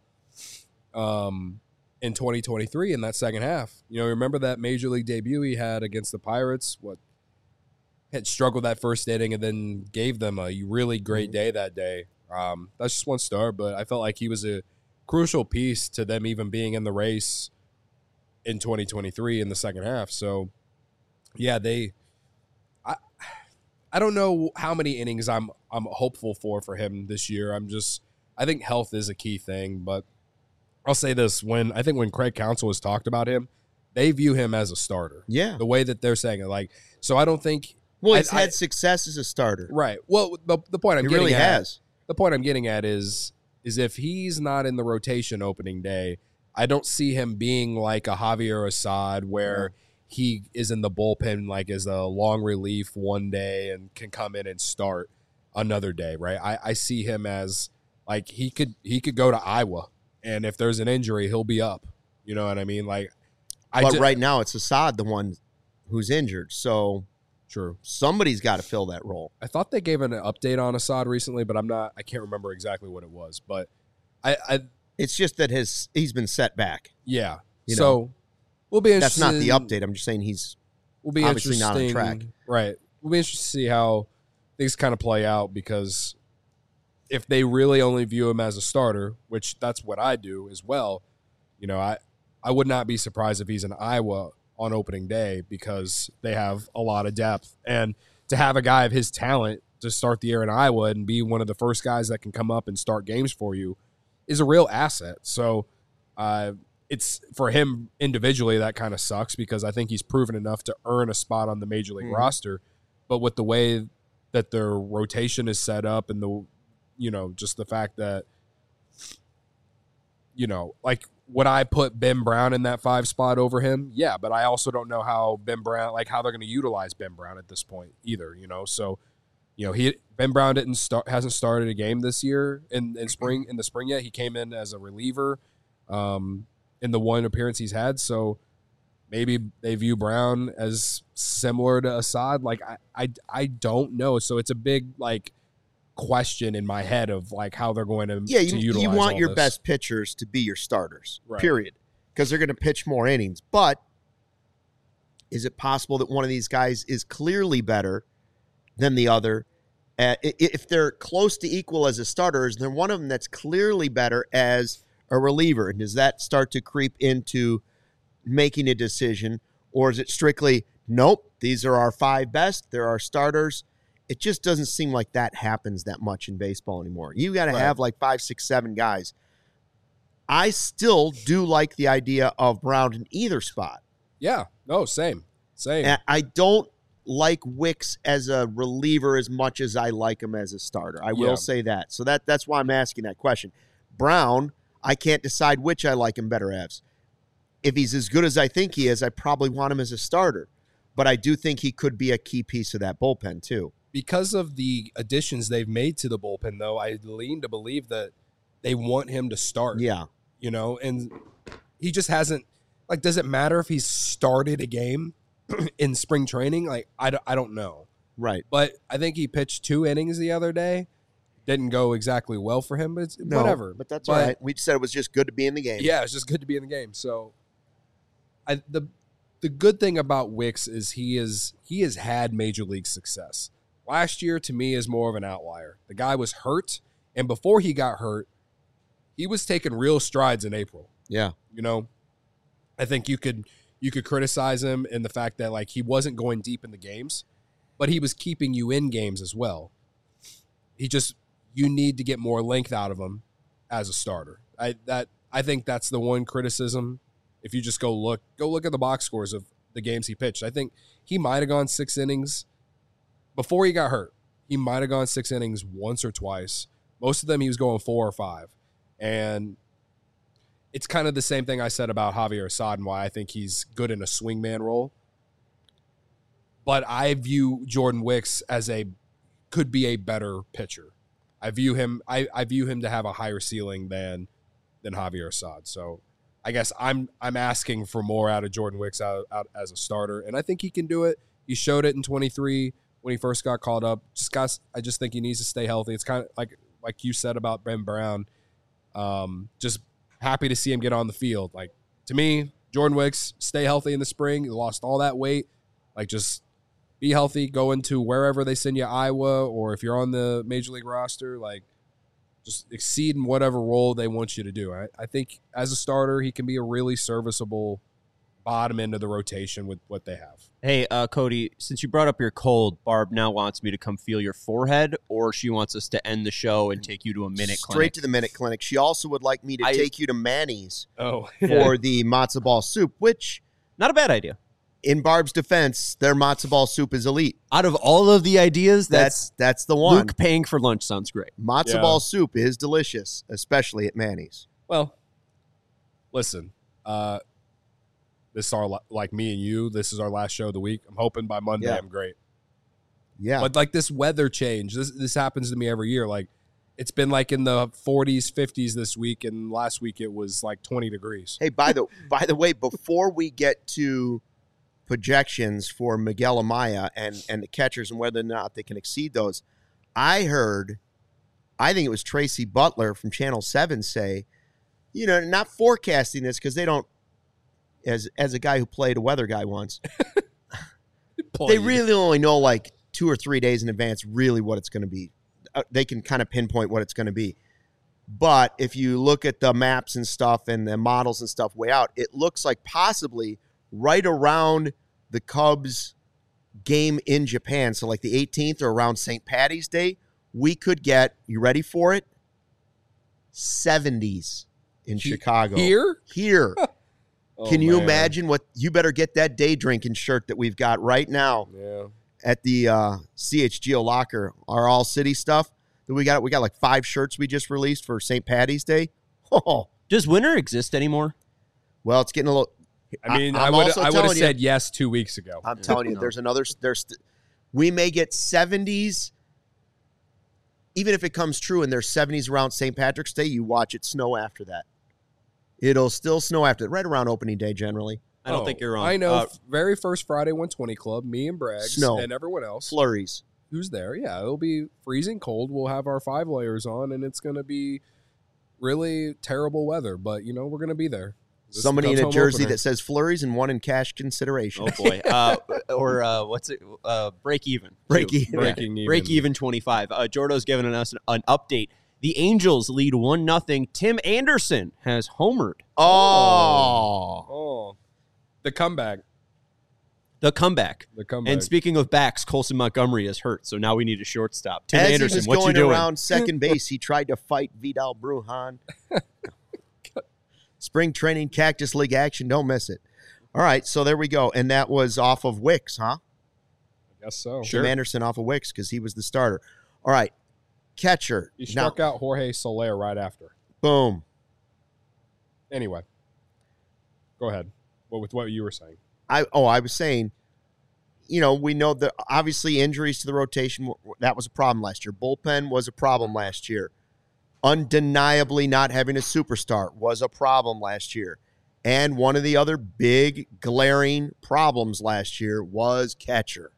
um, in twenty twenty-three in that second half. You know, remember that major league debut he had against the Pirates? What had struggled that first inning and then gave them a really great day that day. Um, that's just one start, but I felt like he was a crucial piece to them even being in the race in twenty twenty-three in the second half. So, yeah, they. I, I don't know how many innings I'm I'm hopeful for for him this year. I'm just I think health is a key thing, but I'll say this. When I think when Craig Counsell has talked about him, they view him as a starter. Yeah. The way that they're saying it. Like, so I don't think. Well, he's I, had I, success as a starter. Right. Well, the, the point I'm he getting really at. has. The point I'm getting at is, is if he's not in the rotation opening day, I don't see him being like a Javier Assad where yeah. he is in the bullpen like as a long relief one day and can come in and start another day, right? I, I see him as like he could he could go to Iowa, and if there's an injury, he'll be up. You know what I mean? Like, I but just, right now it's Assad, the one who's injured. So true, somebody's got to fill that role. I thought they gave an update on Assad recently, but I'm not. I can't remember exactly what it was. But I, I it's just that his he's been set back. Yeah. You so know, we'll be interested. That's not the update. I'm just saying he's we'll be obviously not on track. Right. We'll be interested to see how things kind of play out, because if they really only view him as a starter, which that's what I do as well, you know, I, I would not be surprised if he's in Iowa on opening day, because they have a lot of depth. And to have a guy of his talent to start the year in Iowa and be one of the first guys that can come up and start games for you is a real asset. So uh, it's for him individually, that kind of sucks, because I think he's proven enough to earn a spot on the major league mm-hmm. roster. But with the way that their rotation is set up, and the, you know, just the fact that, you know, like, would I put Ben Brown in that five spot over him? Yeah, but I also don't know how Ben Brown, like how they're going to utilize Ben Brown at this point either, you know? So, you know, he Ben Brown didn't start, hasn't started a game this year in, in spring, in the spring yet. He came in as a reliever um, in the one appearance he's had. So maybe they view Brown as similar to Assad. Like, I, I, I don't know. So it's a big, like, question in my head of, like, how they're going to, yeah, to you, utilize you want all your this. best pitchers to be your starters, Right. period, because they're going to pitch more innings. But is it possible that one of these guys is clearly better than the other? Uh, if they're close to equal as a starter, is there one of them that's clearly better as a reliever? And does that start to creep into making a decision, or is it strictly, nope, these are our five best, they're our starters? It just doesn't seem like that happens that much in baseball anymore. You got to Right. have like five, six, seven guys. I still do like the idea of Brown in either spot. Yeah, no, same, same. And I don't like Wicks as a reliever as much as I like him as a starter. I will Yeah. say that. So that that's why I'm asking that question. Brown, I can't decide which I like him better as. If he's as good as I think he is, I probably want him as a starter. But I do think he could be a key piece of that bullpen too. Because of the additions they've made to the bullpen, though, I lean to believe that they want him to start. Yeah. You know, and he just hasn't, like, does it matter if he's started a game in spring training? Like, I don't, I don't know. Right. But I think he pitched two innings the other day. Didn't go exactly well for him, but it's No, whatever. But that's But- all right. We said it was just good to be in the game. Yeah, it's just good to be in the game. So, I the the good thing about Wicks is he is he has had major league success. Last year, to me, is more of an outlier. The guy was hurt, and before he got hurt, he was taking real strides in April. Yeah. You know, I think you could you could criticize him in the fact that, like, he wasn't going deep in the games, but he was keeping you in games as well. He just, you need to get more length out of him as a starter. I that I think that's the one criticism. If you just go look go look at the box scores of the games he pitched, I think he might have gone six innings before he got hurt. He might have gone six innings once or twice. Most of them he was going four or five. And it's kind of the same thing I said about Javier Assad and why I think he's good in a swingman role. But I view Jordan Wicks as a could be a better pitcher. I view him I, I view him to have a higher ceiling than than Javier Assad. So I guess I'm I'm asking for more out of Jordan Wicks out, out as a starter, and I think he can do it. He showed it in twenty-three when he first got called up. Just got, I just think he needs to stay healthy. It's kind of like like you said about Ben Brown. Um, just happy to see him get on the field. Like, to me, Jordan Wicks, stay healthy in the spring. He lost all that weight. Like, just be healthy, go into wherever they send you, Iowa, or if you're on the major league roster, like, just exceed in whatever role they want you to do. I, I think as a starter, he can be a really serviceable bottom end of the rotation with what they have. Hey, uh, Cody, since you brought up your cold, Barb now wants me to come feel your forehead, or she wants us to end the show and take you to a minute Straight clinic. to the minute clinic. She also would like me to I- take you to Manny's Oh, for the matzo ball soup, which, Not a bad idea. in Barb's defense, their matzo ball soup is elite. Out of all of the ideas, That's that's, that's the one. Luke paying for lunch sounds great. Matzo Yeah. ball soup is delicious, especially at Manny's. well, listen, uh, this is our, la- like me and you, this is our last show of the week. I'm hoping by Monday Yeah. I'm great. Yeah. But like this weather change, this this happens to me every year. Like it's been like in the forties, fifties this week, and last week it was like twenty degrees. Hey, by the by the way, before we get to projections for Miguel Amaya and and the catchers and whether or not they can exceed those, I heard, I think it was Tracy Butler from Channel Seven say, you know, not forecasting this because they don't, as as a guy who played a weather guy once, they really only know like two or three days in advance really what it's going to be. Uh, they can kind of pinpoint what it's going to be. But if you look at the maps and stuff and the models and stuff way out, it looks like possibly right around the Cubs game in Japan, so like the eighteenth or around Saint Patty's Day, we could get, you ready for it? seventies in He- Chicago. Here? Here. Oh, Can you man. imagine what, you better get that day drinking shirt that we've got right now Yeah. at the uh, C H G O locker, our all city stuff that we got. We got like five shirts we just released for Saint Patty's Day. Oh, Does winter exist anymore? well, it's getting a little. I mean, I- I, I'm would also I would have telling you- said yes two weeks ago. I'm telling you, No. there's another. There's, we may get seventies, even if it comes true, and there's seventies around Saint Patrick's Day. You watch it snow after that. It'll still snow after right around opening day generally. I don't Oh, think you're wrong. I know. Uh, very first Friday one twenty Club, me and Braggs Snow. and everyone else Flurries. who's there. Yeah, it'll be freezing cold. We'll have our five layers on, and it's going to be really terrible weather. But, you know, we're going to be there. This is the Somebody in Cubs a home jersey opener. that says flurries and one in cash consideration. oh boy. Uh, or uh, what's it? Uh, break even. Break too. even. Breaking even. Break even twenty-five. Uh, Jordo's giving us an, an update. The Angels lead one nothing. Tim Anderson has homered. Oh. Oh, the comeback. The comeback. The comeback. And speaking of backs, Colson Montgomery is hurt, so now we need a shortstop. Tim As Anderson, he was what you going doing? around second base, he tried to fight Vidal Brujan. Spring training Cactus League action. Don't miss it. All right, so there we go. And that was off of Wicks, huh? I guess so. Tim Anderson off of Wicks because he was the starter. All right, catcher. He Now, struck out Jorge Soler right after. boom. Anyway, go ahead. What with what you were saying? I oh, I was saying, you know, we know that obviously injuries to the rotation, w- w- that was a problem last year. Bullpen was a problem last year. Undeniably not having a superstar was a problem last year. And one of the other big glaring problems last year was catcher.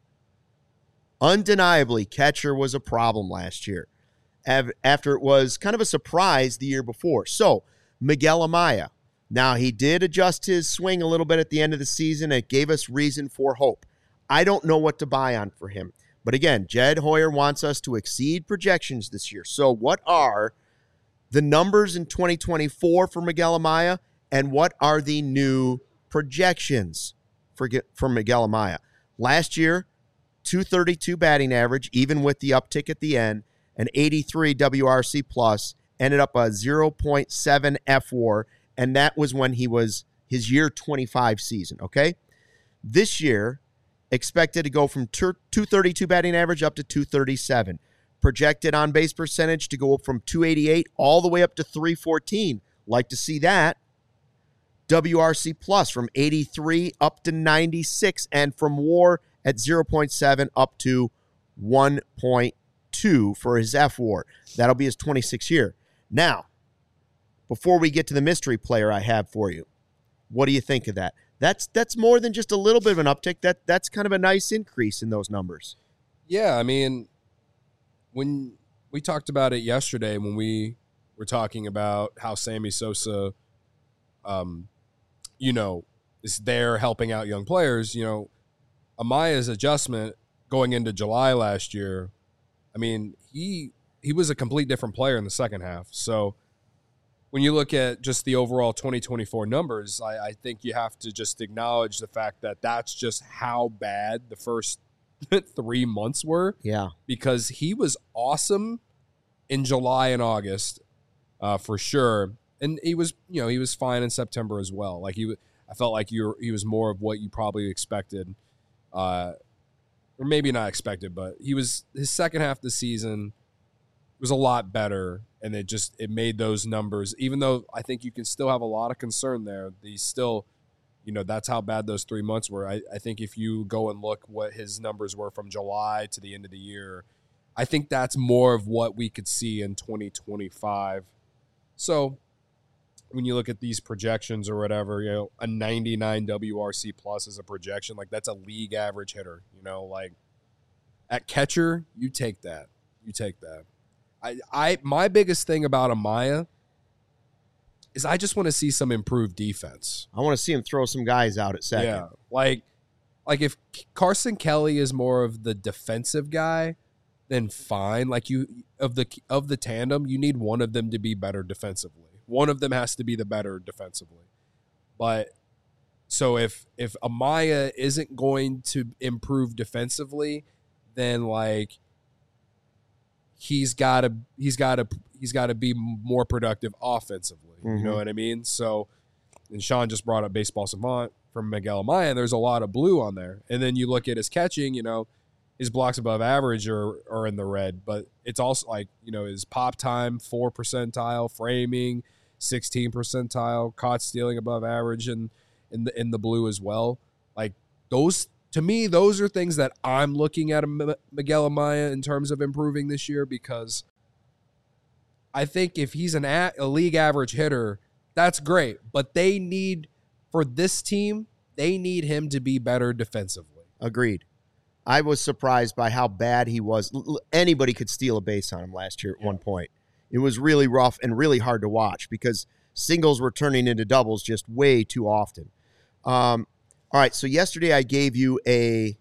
Undeniably, catcher was a problem last year av- after it was kind of a surprise the year before. So, Miguel Amaya. Now, he did adjust his swing a little bit at the end of the season. It gave us reason for hope. I don't know what to buy on for him. But again, Jed Hoyer wants us to exceed projections this year. So what are the numbers in twenty twenty-four for Miguel Amaya, and what are the new projections for, for Miguel Amaya? Last year, two thirty-two batting average, even with the uptick at the end, an eighty-three W R C plus, ended up a zero point seven F W A R, and that was when he was his year twenty-five season, okay? This year, expected to go from two thirty-two batting average up to two thirty-seven. Projected on base percentage to go up from two eighty-eight all the way up to three fourteen. Like to see that. W R C plus from eighty-three up to ninety-six, and from W A R at zero point seven up to one point two for his F W A R. That'll be his twenty-sixth year. Now, before we get to the mystery player I have for you, what do you think of that? That's that's more than just a little bit of an uptick. That that's kind of a nice increase in those numbers. Yeah, I mean, when we talked about it yesterday, when we were talking about how Sammy Sosa, um, you know, is there helping out young players, you know, Amaya's adjustment going into July last year, I mean, he he was a complete different player in the second half. So when you look at just the overall twenty twenty-four numbers, I, I think you have to just acknowledge the fact that that's just how bad the first three months were. Yeah. Because he was awesome in July and August, uh, for sure. And he was, you know, he was fine in September as well. Like he, I felt like you were, he was more of what you probably expected, uh, or maybe not expected, but he was, his second half of the season was a lot better, and it just, it made those numbers, even though I think you can still have a lot of concern there, he's still, you know, that's how bad those three months were. I, I think if you go and look what his numbers were from July to the end of the year, I think that's more of what we could see in twenty twenty-five. So when you look at these projections or whatever, you know, a ninety-nine W R C plus is a projection. Like, that's a league average hitter, you know, like at catcher, you take that. You take that. I, I, my biggest thing about Amaya is I just want to see some improved defense. I want to see him throw some guys out at second. Yeah. Like, like if Carson Kelly is more of the defensive guy, then fine. Like you, of the, of the tandem, you need one of them to be better defensively. One of them has to be the better defensively. But so if if Amaya isn't going to improve defensively, then like he's got to he's got to he's got to be more productive offensively. Mm-hmm. You know what I mean? So, and Sean just brought up Baseball Savant from Miguel Amaya, and there's a lot of blue on there. And then you look at his catching, you know, his blocks above average are, are in the red, but it's also like, you know, his pop time, four percentile, framing, sixteen percentile, caught stealing above average and in the, in the blue as well. Like those, to me, those are things that I'm looking at M- Miguel Amaya in terms of improving this year, because I think if he's an a, a league average hitter, that's great, but they need, for this team, they need him to be better defensively. Agreed. I was surprised by how bad he was. L- anybody could steal a base on him last year at yeah. one point. It was really rough and really hard to watch because singles were turning into doubles just way too often. Um, all right, so yesterday I gave you a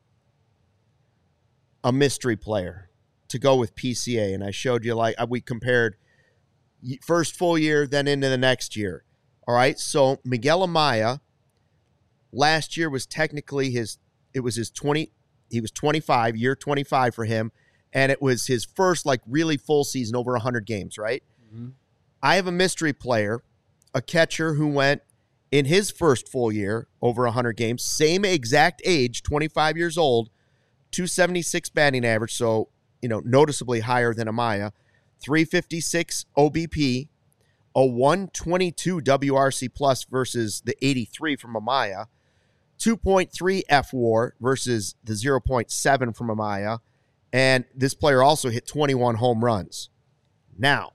a mystery player to go with P C A, and I showed you, like, we compared first full year, then into the next year. All right, so Miguel Amaya last year was technically his, it was his twenty, he was twenty-five, year twenty-five for him, and it was his first, like, really full season, over one hundred games, right? Mm-hmm. I have a mystery player, a catcher who went in his first full year, over one hundred games, same exact age, twenty-five years old, two seventy-six batting average, so, you know, noticeably higher than Amaya, three fifty-six O B P, a one twenty-two W R C plus versus the eighty-three from Amaya, two point three F W A R versus the zero point seven from Amaya, and this player also hit twenty-one home runs. Now,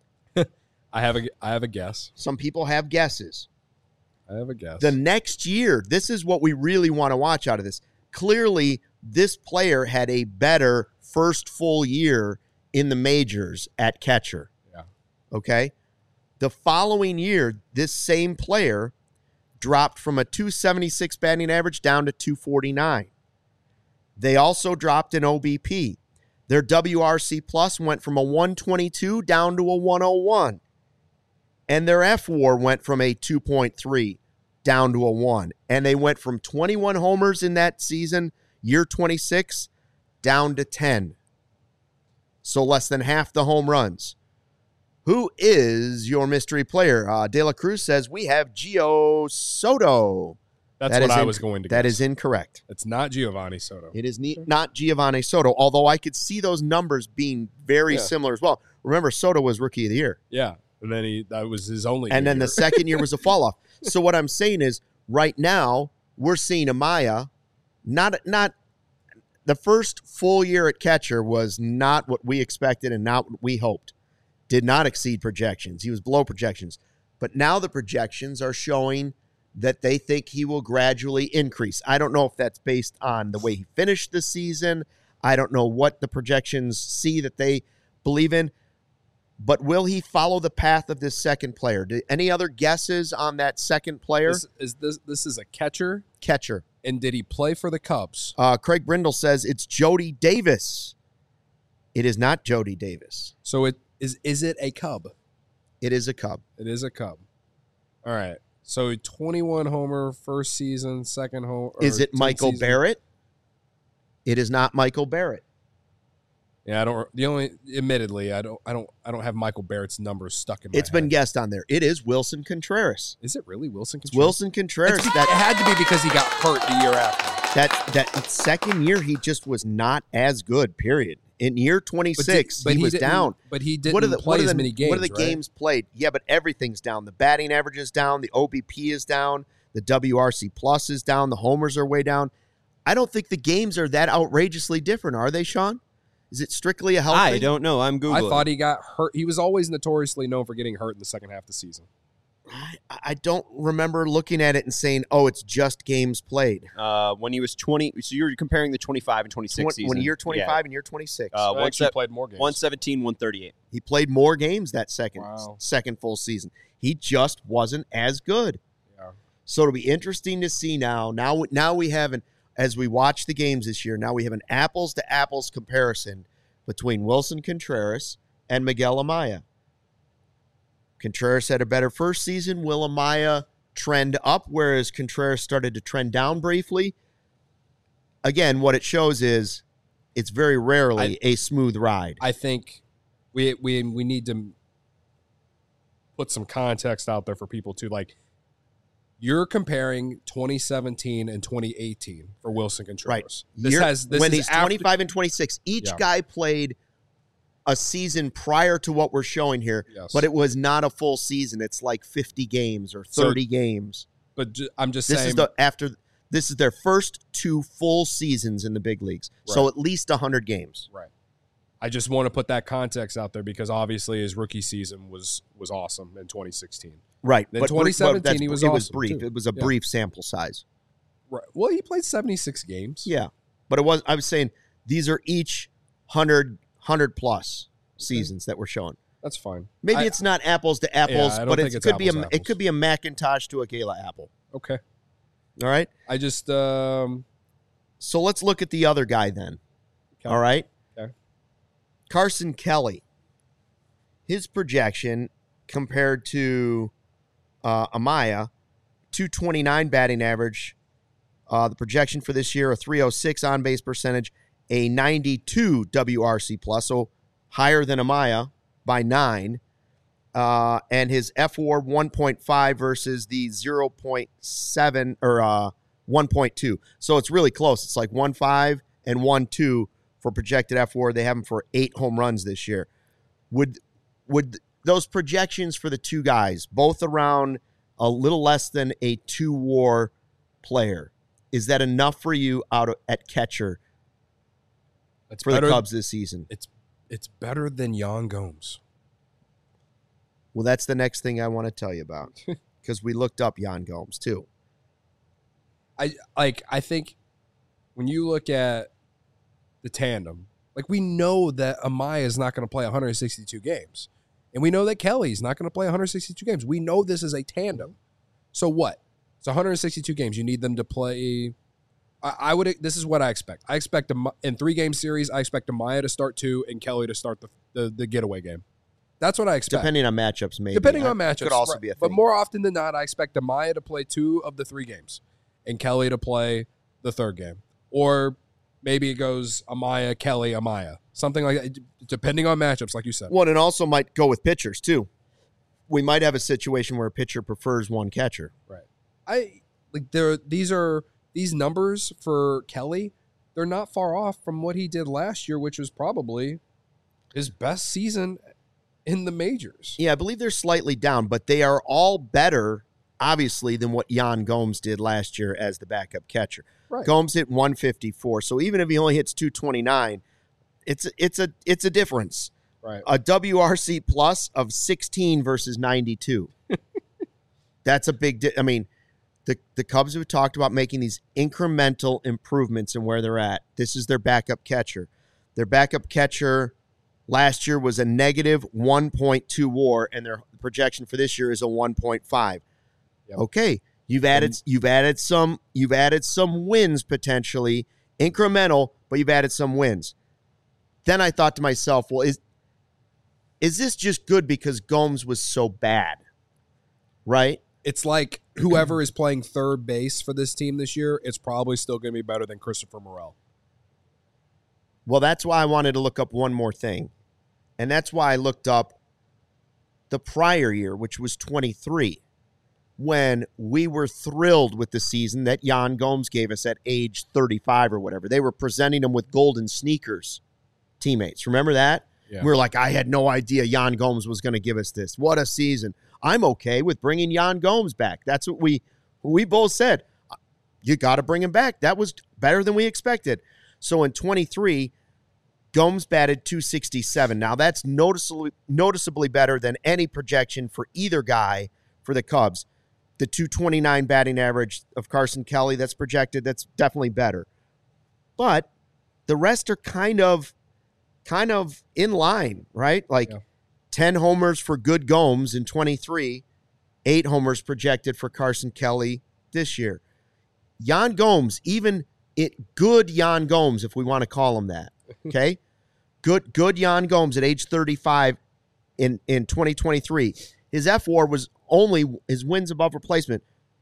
I have a I have a guess. Some people have guesses. I have a guess. The next year, this is what we really want to watch out of this. Clearly, this player had a better first full year in the majors at catcher. Yeah. Okay? The following year, this same player dropped from a two seventy-six batting average down to two forty-nine. They also dropped in O B P. Their W R C plus went from a one twenty-two down to a one oh one. And their F W A R went from a two point three down to a one. And they went from twenty-one homers in that season, year twenty-six, down to ten. So less than half the home runs. Who is your mystery player? Uh, De La Cruz says we have Gio Soto. That's that what I in- was going to That guess. is incorrect. It's not Giovanni Soto. It is ne- not Giovanni Soto, although I could see those numbers being very Yeah. similar as well. Remember, Soto was Rookie of the Year. Yeah. And then he that was his only And then year. the second year was a fall off. So what I'm saying is, right now, we're seeing Amaya, not not the first full year at catcher was not what we expected and not what we hoped. Did not exceed projections. He was below projections. But now the projections are showing that they think he will gradually increase. I don't know if that's based on the way he finished the season. I don't know what the projections see that they believe in. But will he follow the path of this second player? Do, any other guesses on that second player? This, is this this is a catcher? Catcher. And did he play for the Cubs? Uh, Craig Brindle says it's Jody Davis. It is not Jody Davis. So it is is it a Cub? It is a Cub. It is a Cub. All right. So twenty-one homer first season, second home. Is it Michael season. Barrett? It is not Michael Barrett. Yeah, I don't. The only, admittedly, I don't. I don't. I don't have Michael Barrett's numbers stuck in my It's been head. guessed on there. It is Wilson Contreras. Is it really Wilson It's Contreras? Wilson Contreras. It's be- That it had to be because he got hurt the year after. that that second year, he just was not as good. Period. In year twenty-six, But did- but he, was didn't- down. But he didn't What are the play what are as the, many games. What are the right? games played? Yeah, but everything's down. The batting average is down. The O B P is down. The W R C plus is down. The homers are way down. I don't think the games are that outrageously different, are they, Sean? Is it strictly a health I thing? don't know. I'm Googling. I thought he got hurt. He was always notoriously known for getting hurt in the second half of the season. I, I don't remember looking at it and saying, "Oh, it's just games played." Uh, when he was twenty, so you're comparing the twenty-five and twenty-six When, season. when year twenty-five and year twenty-six, Uh, So one actually se- played more games. one seventeen, one thirty-eight. he played more games that second Wow. second full season. He just wasn't as good. Yeah. So it'll be interesting to see now. Now, now we have an as we watch the games this year. Now we have an apples to apples comparison between Wilson Contreras and Miguel Amaya. Contreras had a better first season. Will Amaya trend up, whereas Contreras started to trend down briefly? Again, what it shows is it's very rarely a smooth ride. I think we we we need to put some context out there for people too. Like, you're comparing twenty seventeen and twenty eighteen for Wilson Contreras. Right. This Year- has this when is he's after- twenty-five and twenty-six, each Yeah. guy played a season prior to what we're showing here, Yes. but it was not a full season. It's like fifty games or So- thirty games. But ju- I'm just This saying. is the after this is their first two full seasons in the big leagues. So Right. at least one hundred games. Right. I just want to put that context out there because obviously his rookie season was was awesome in twenty sixteen. Right. Then but twenty seventeen, that's- he was it was awesome, brief. too. It was a Yeah. brief sample size. Right. Well, he played seventy-six games. Yeah. But it was I was saying these are each one hundred, one hundred plus seasons that we're showing. That's fine. Maybe I- it's not apples to apples, I don't but think it's, it's could be a apples to it apples. could be a Macintosh to a Gala apple. Okay. All right? I just um So let's look at the other guy then. Okay. All right? Okay. Carson Kelly. His projection compared to uh, Amaya, two twenty-nine batting average. Uh, the projection for this year, a three oh six on-base percentage, a ninety-two W R C plus, so higher than Amaya by nine. Uh, and his F W A R one point five versus the zero point seven or uh, one point two. So it's really close. It's like one point five and one point two for projected F W A R. They have him for eight home runs this year. Would would those projections for the two guys, both around a little less than a two W A R player, is that enough for you out of, at catcher it's for better, the Cubs this season? It's it's better than Yan Gomes. Well, that's the next thing I want to tell you about because we looked up Yan Gomes too. I like I think when you look at the tandem, like we know that Amaya is not going to play one hundred sixty-two games. And we know that Kelly's not going to play one hundred sixty-two games. We know this is a tandem. So what? It's one hundred sixty-two games. You need them to play. I, I would. This is what I expect. I expect a, in three game series. I expect Amaya to start two and Kelly to start the the, the getaway game. That's what I expect. Depending on matchups, maybe. Depending on That matchups, could also right. be a thing. But more often than not, I expect Amaya to play two of the three games, and Kelly to play the third game, or maybe it goes Amaya, Kelly, Amaya, something like that. Depending on matchups, like you said. Well, and also might go with pitchers too. We might have a situation where a pitcher prefers one catcher. Right. I like there. These are these numbers for Kelly. They're not far off from what he did last year, which was probably his best season in the majors. Yeah, I believe they're slightly down, but they are all better, obviously, than what Yan Gomes did last year as the backup catcher. Right. Gomes hit one fifty-four, so even if he only hits two twenty-nine, it's it's a it's a difference. Right. A W R C plus of sixteen versus ninety-two. That's a big. Di- I mean, the the Cubs have talked about making these incremental improvements in where they're at. This is their backup catcher. Their backup catcher last year was a negative one point two W A R, and their projection for this year is a one point five. Yep. Okay, you've added And- you've added some you've added some wins potentially, incremental, but you've added some wins. Then I thought to myself, well, is is this just good because Gomes was so bad? Right? It's like whoever is playing third base for this team this year, it's probably still going to be better than Christopher Morel. Well, that's why I wanted to look up one more thing. And that's why I looked up the prior year, which was twenty-three, when we were thrilled with the season that Yan Gomes gave us at age thirty-five or whatever. They were presenting him with golden sneakers, teammates. Remember that? Yeah. We were like, I had no idea Yan Gomes was going to give us this. What a season. I'm okay with bringing Yan Gomes back. That's what we we both said. You got to bring him back. That was better than we expected. So in twenty-three, Gomes batted two sixty-seven. Now that's noticeably noticeably better than any projection for either guy for the Cubs. The two twenty-nine batting average of Carson Kelly that's projected, that's definitely better. But the rest are kind of kind of in line, right? Like yeah. ten homers for good Gomes in twenty-three, eight homers projected for Carson Kelly this year. Yan Gomes, even it good Yan Gomes, if we want to call him that, okay? good good Yan Gomes at age thirty-five in, in twenty twenty-three. His F W A R was only, his wins above replacement,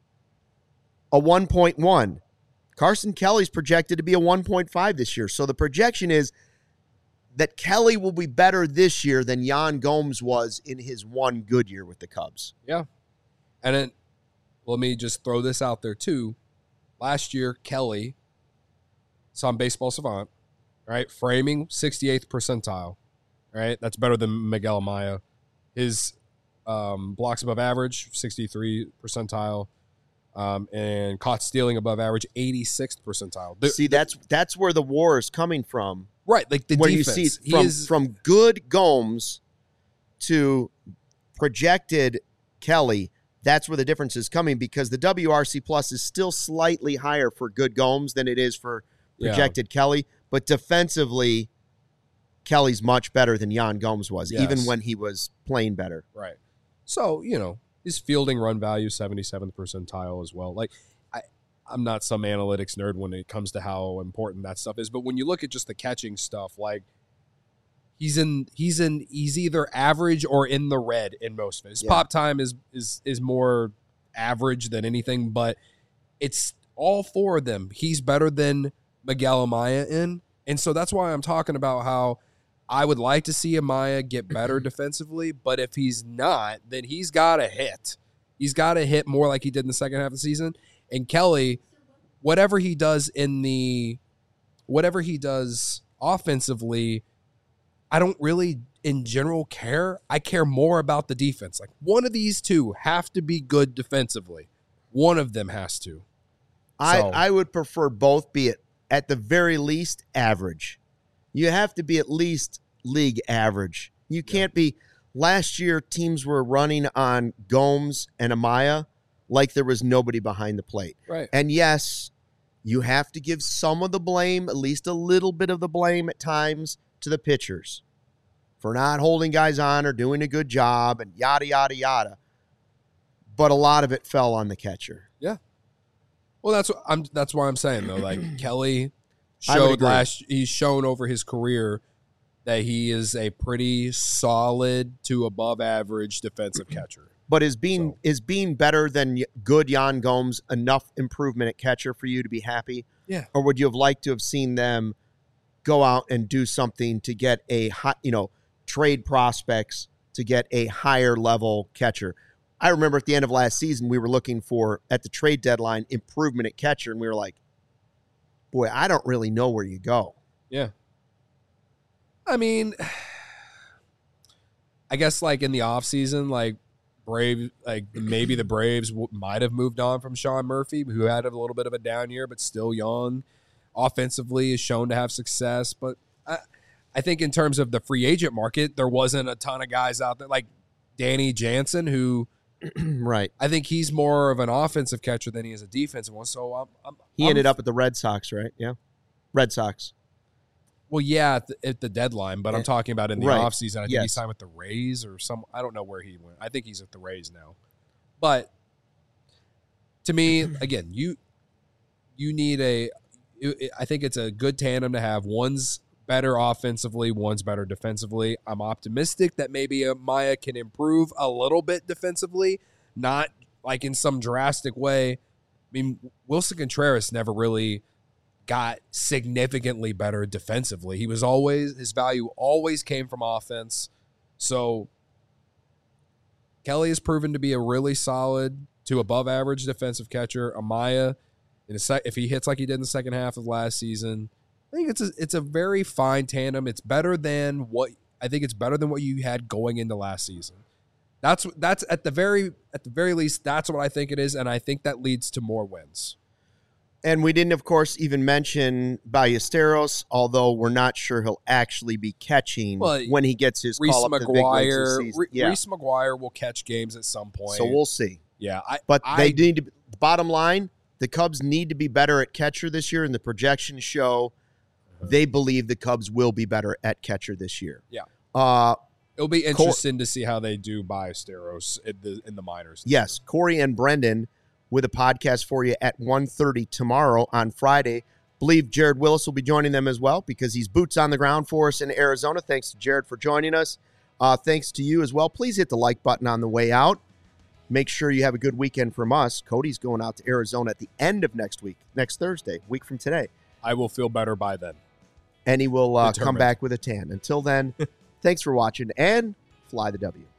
a one point one. Carson Kelly's projected to be a one point five this year. So the projection is that Kelly will be better this year than Yan Gomes was in his one good year with the Cubs. Yeah. And then let me just throw this out there too. Last year, Kelly, it's on Baseball Savant, right? Framing, sixty-eighth percentile, right? That's better than Miguel Amaya. His um, blocks above average, sixty-three percentile. Um, and caught stealing above average, eighty-sixth percentile. The, see, that's that's where the war is coming from. Right, like the where defense. You see he from, is, from good Gomes to projected Kelly, that's where the difference is coming because the W R C plus is still slightly higher for good Gomes than it is for projected yeah. Kelly. But defensively, Kelly's much better than Yan Gomes was, yes. even when he was playing better. Right. So, you know, his fielding run value, seventy-seventh percentile as well. Like, I, I'm not some analytics nerd when it comes to how important that stuff is, but when you look at just the catching stuff, like, he's in, he's in, he's either average or in the red in most of it. His yeah. pop time is is is more average than anything, but it's all four of them. He's better than Miguel Amaya in, and so that's why I'm talking about how I would like to see Amaya get better defensively, but if he's not, then he's got to hit. He's got to hit more like he did in the second half of the season. And Kelly, whatever he does in the, whatever he does offensively, I don't really, in general, care. I care more about the defense. Like, one of these two have to be good defensively. One of them has to. I, so. I would prefer both be at, at the very least average. You have to be at least league average. You can't yeah. be. Last year, teams were running on Gomes and Amaya like there was nobody behind the plate. Right. And yes, you have to give some of the blame, at least a little bit of the blame at times, to the pitchers for not holding guys on or doing a good job and yada, yada, yada. But a lot of it fell on the catcher. Yeah. Well, that's what I'm. That's why I'm saying though. Like Kelly showed last. He's shown over his career that he is a pretty solid to above average defensive catcher. But is being so. is being better than good Yan Gomes enough improvement at catcher for you to be happy? Yeah. Or would you have liked to have seen them go out and do something to get a high, you know, trade prospects to get a higher level catcher? I remember at the end of last season, we were looking for, at the trade deadline, improvement at catcher, and we were like, boy, I don't really know where you go. Yeah. I mean, I guess like in the offseason, like Brave, like maybe the Braves w- might have moved on from Sean Murphy, who had a little bit of a down year, but still young. Offensively is shown to have success. But I, I think in terms of the free agent market, there wasn't a ton of guys out there like Danny Jansen, who right. I think he's more of an offensive catcher than he is a defensive one. So I'm, I'm he I'm, ended up at the Red Sox, right? Yeah. Red Sox. Well, yeah, at the, at the deadline, but I'm talking about in the right. offseason. I think yes. he signed with the Rays or some – I don't know where he went. I think he's at the Rays now. But to me, again, you you need a – I think it's a good tandem to have. One's better offensively, one's better defensively. I'm optimistic that maybe Amaya can improve a little bit defensively, not like in some drastic way. I mean, Wilson Contreras never really got significantly better defensively. He was always, his value always came from offense. So Kelly has proven to be a really solid to above average defensive catcher. Amaya, in a sec, if he hits like he did in the second half of last season, I think it's a, it's a very fine tandem. It's better than what I think it's better than what you had going into last season. That's that's at the very at the very least that's what I think it is, and I think that leads to more wins. And we didn't, of course, even mention Ballesteros, although we're not sure he'll actually be catching well, when he gets his Reese call up McGuire, to Re- yeah. Reese McGuire will catch games at some point. So we'll see. Yeah, I, but I, they need to. Bottom line, the Cubs need to be better at catcher this year, and the projections show they believe the Cubs will be better at catcher this year. Yeah, uh, it'll be interesting Cor- to see how they do Ballesteros in the in the minors. Yes, Corey and Brendan with a podcast for you at one thirty tomorrow on Friday. Believe Jared Willis will be joining them as well because he's boots on the ground for us in Arizona. Thanks to Jared for joining us. Uh, thanks to you as well. Please hit the like button on the way out. Make sure you have a good weekend from us. Cody's going out to Arizona at the end of next week, next Thursday, week from today. I will feel better by then. And he will uh, come back with a tan. Until then, thanks for watching and fly the W.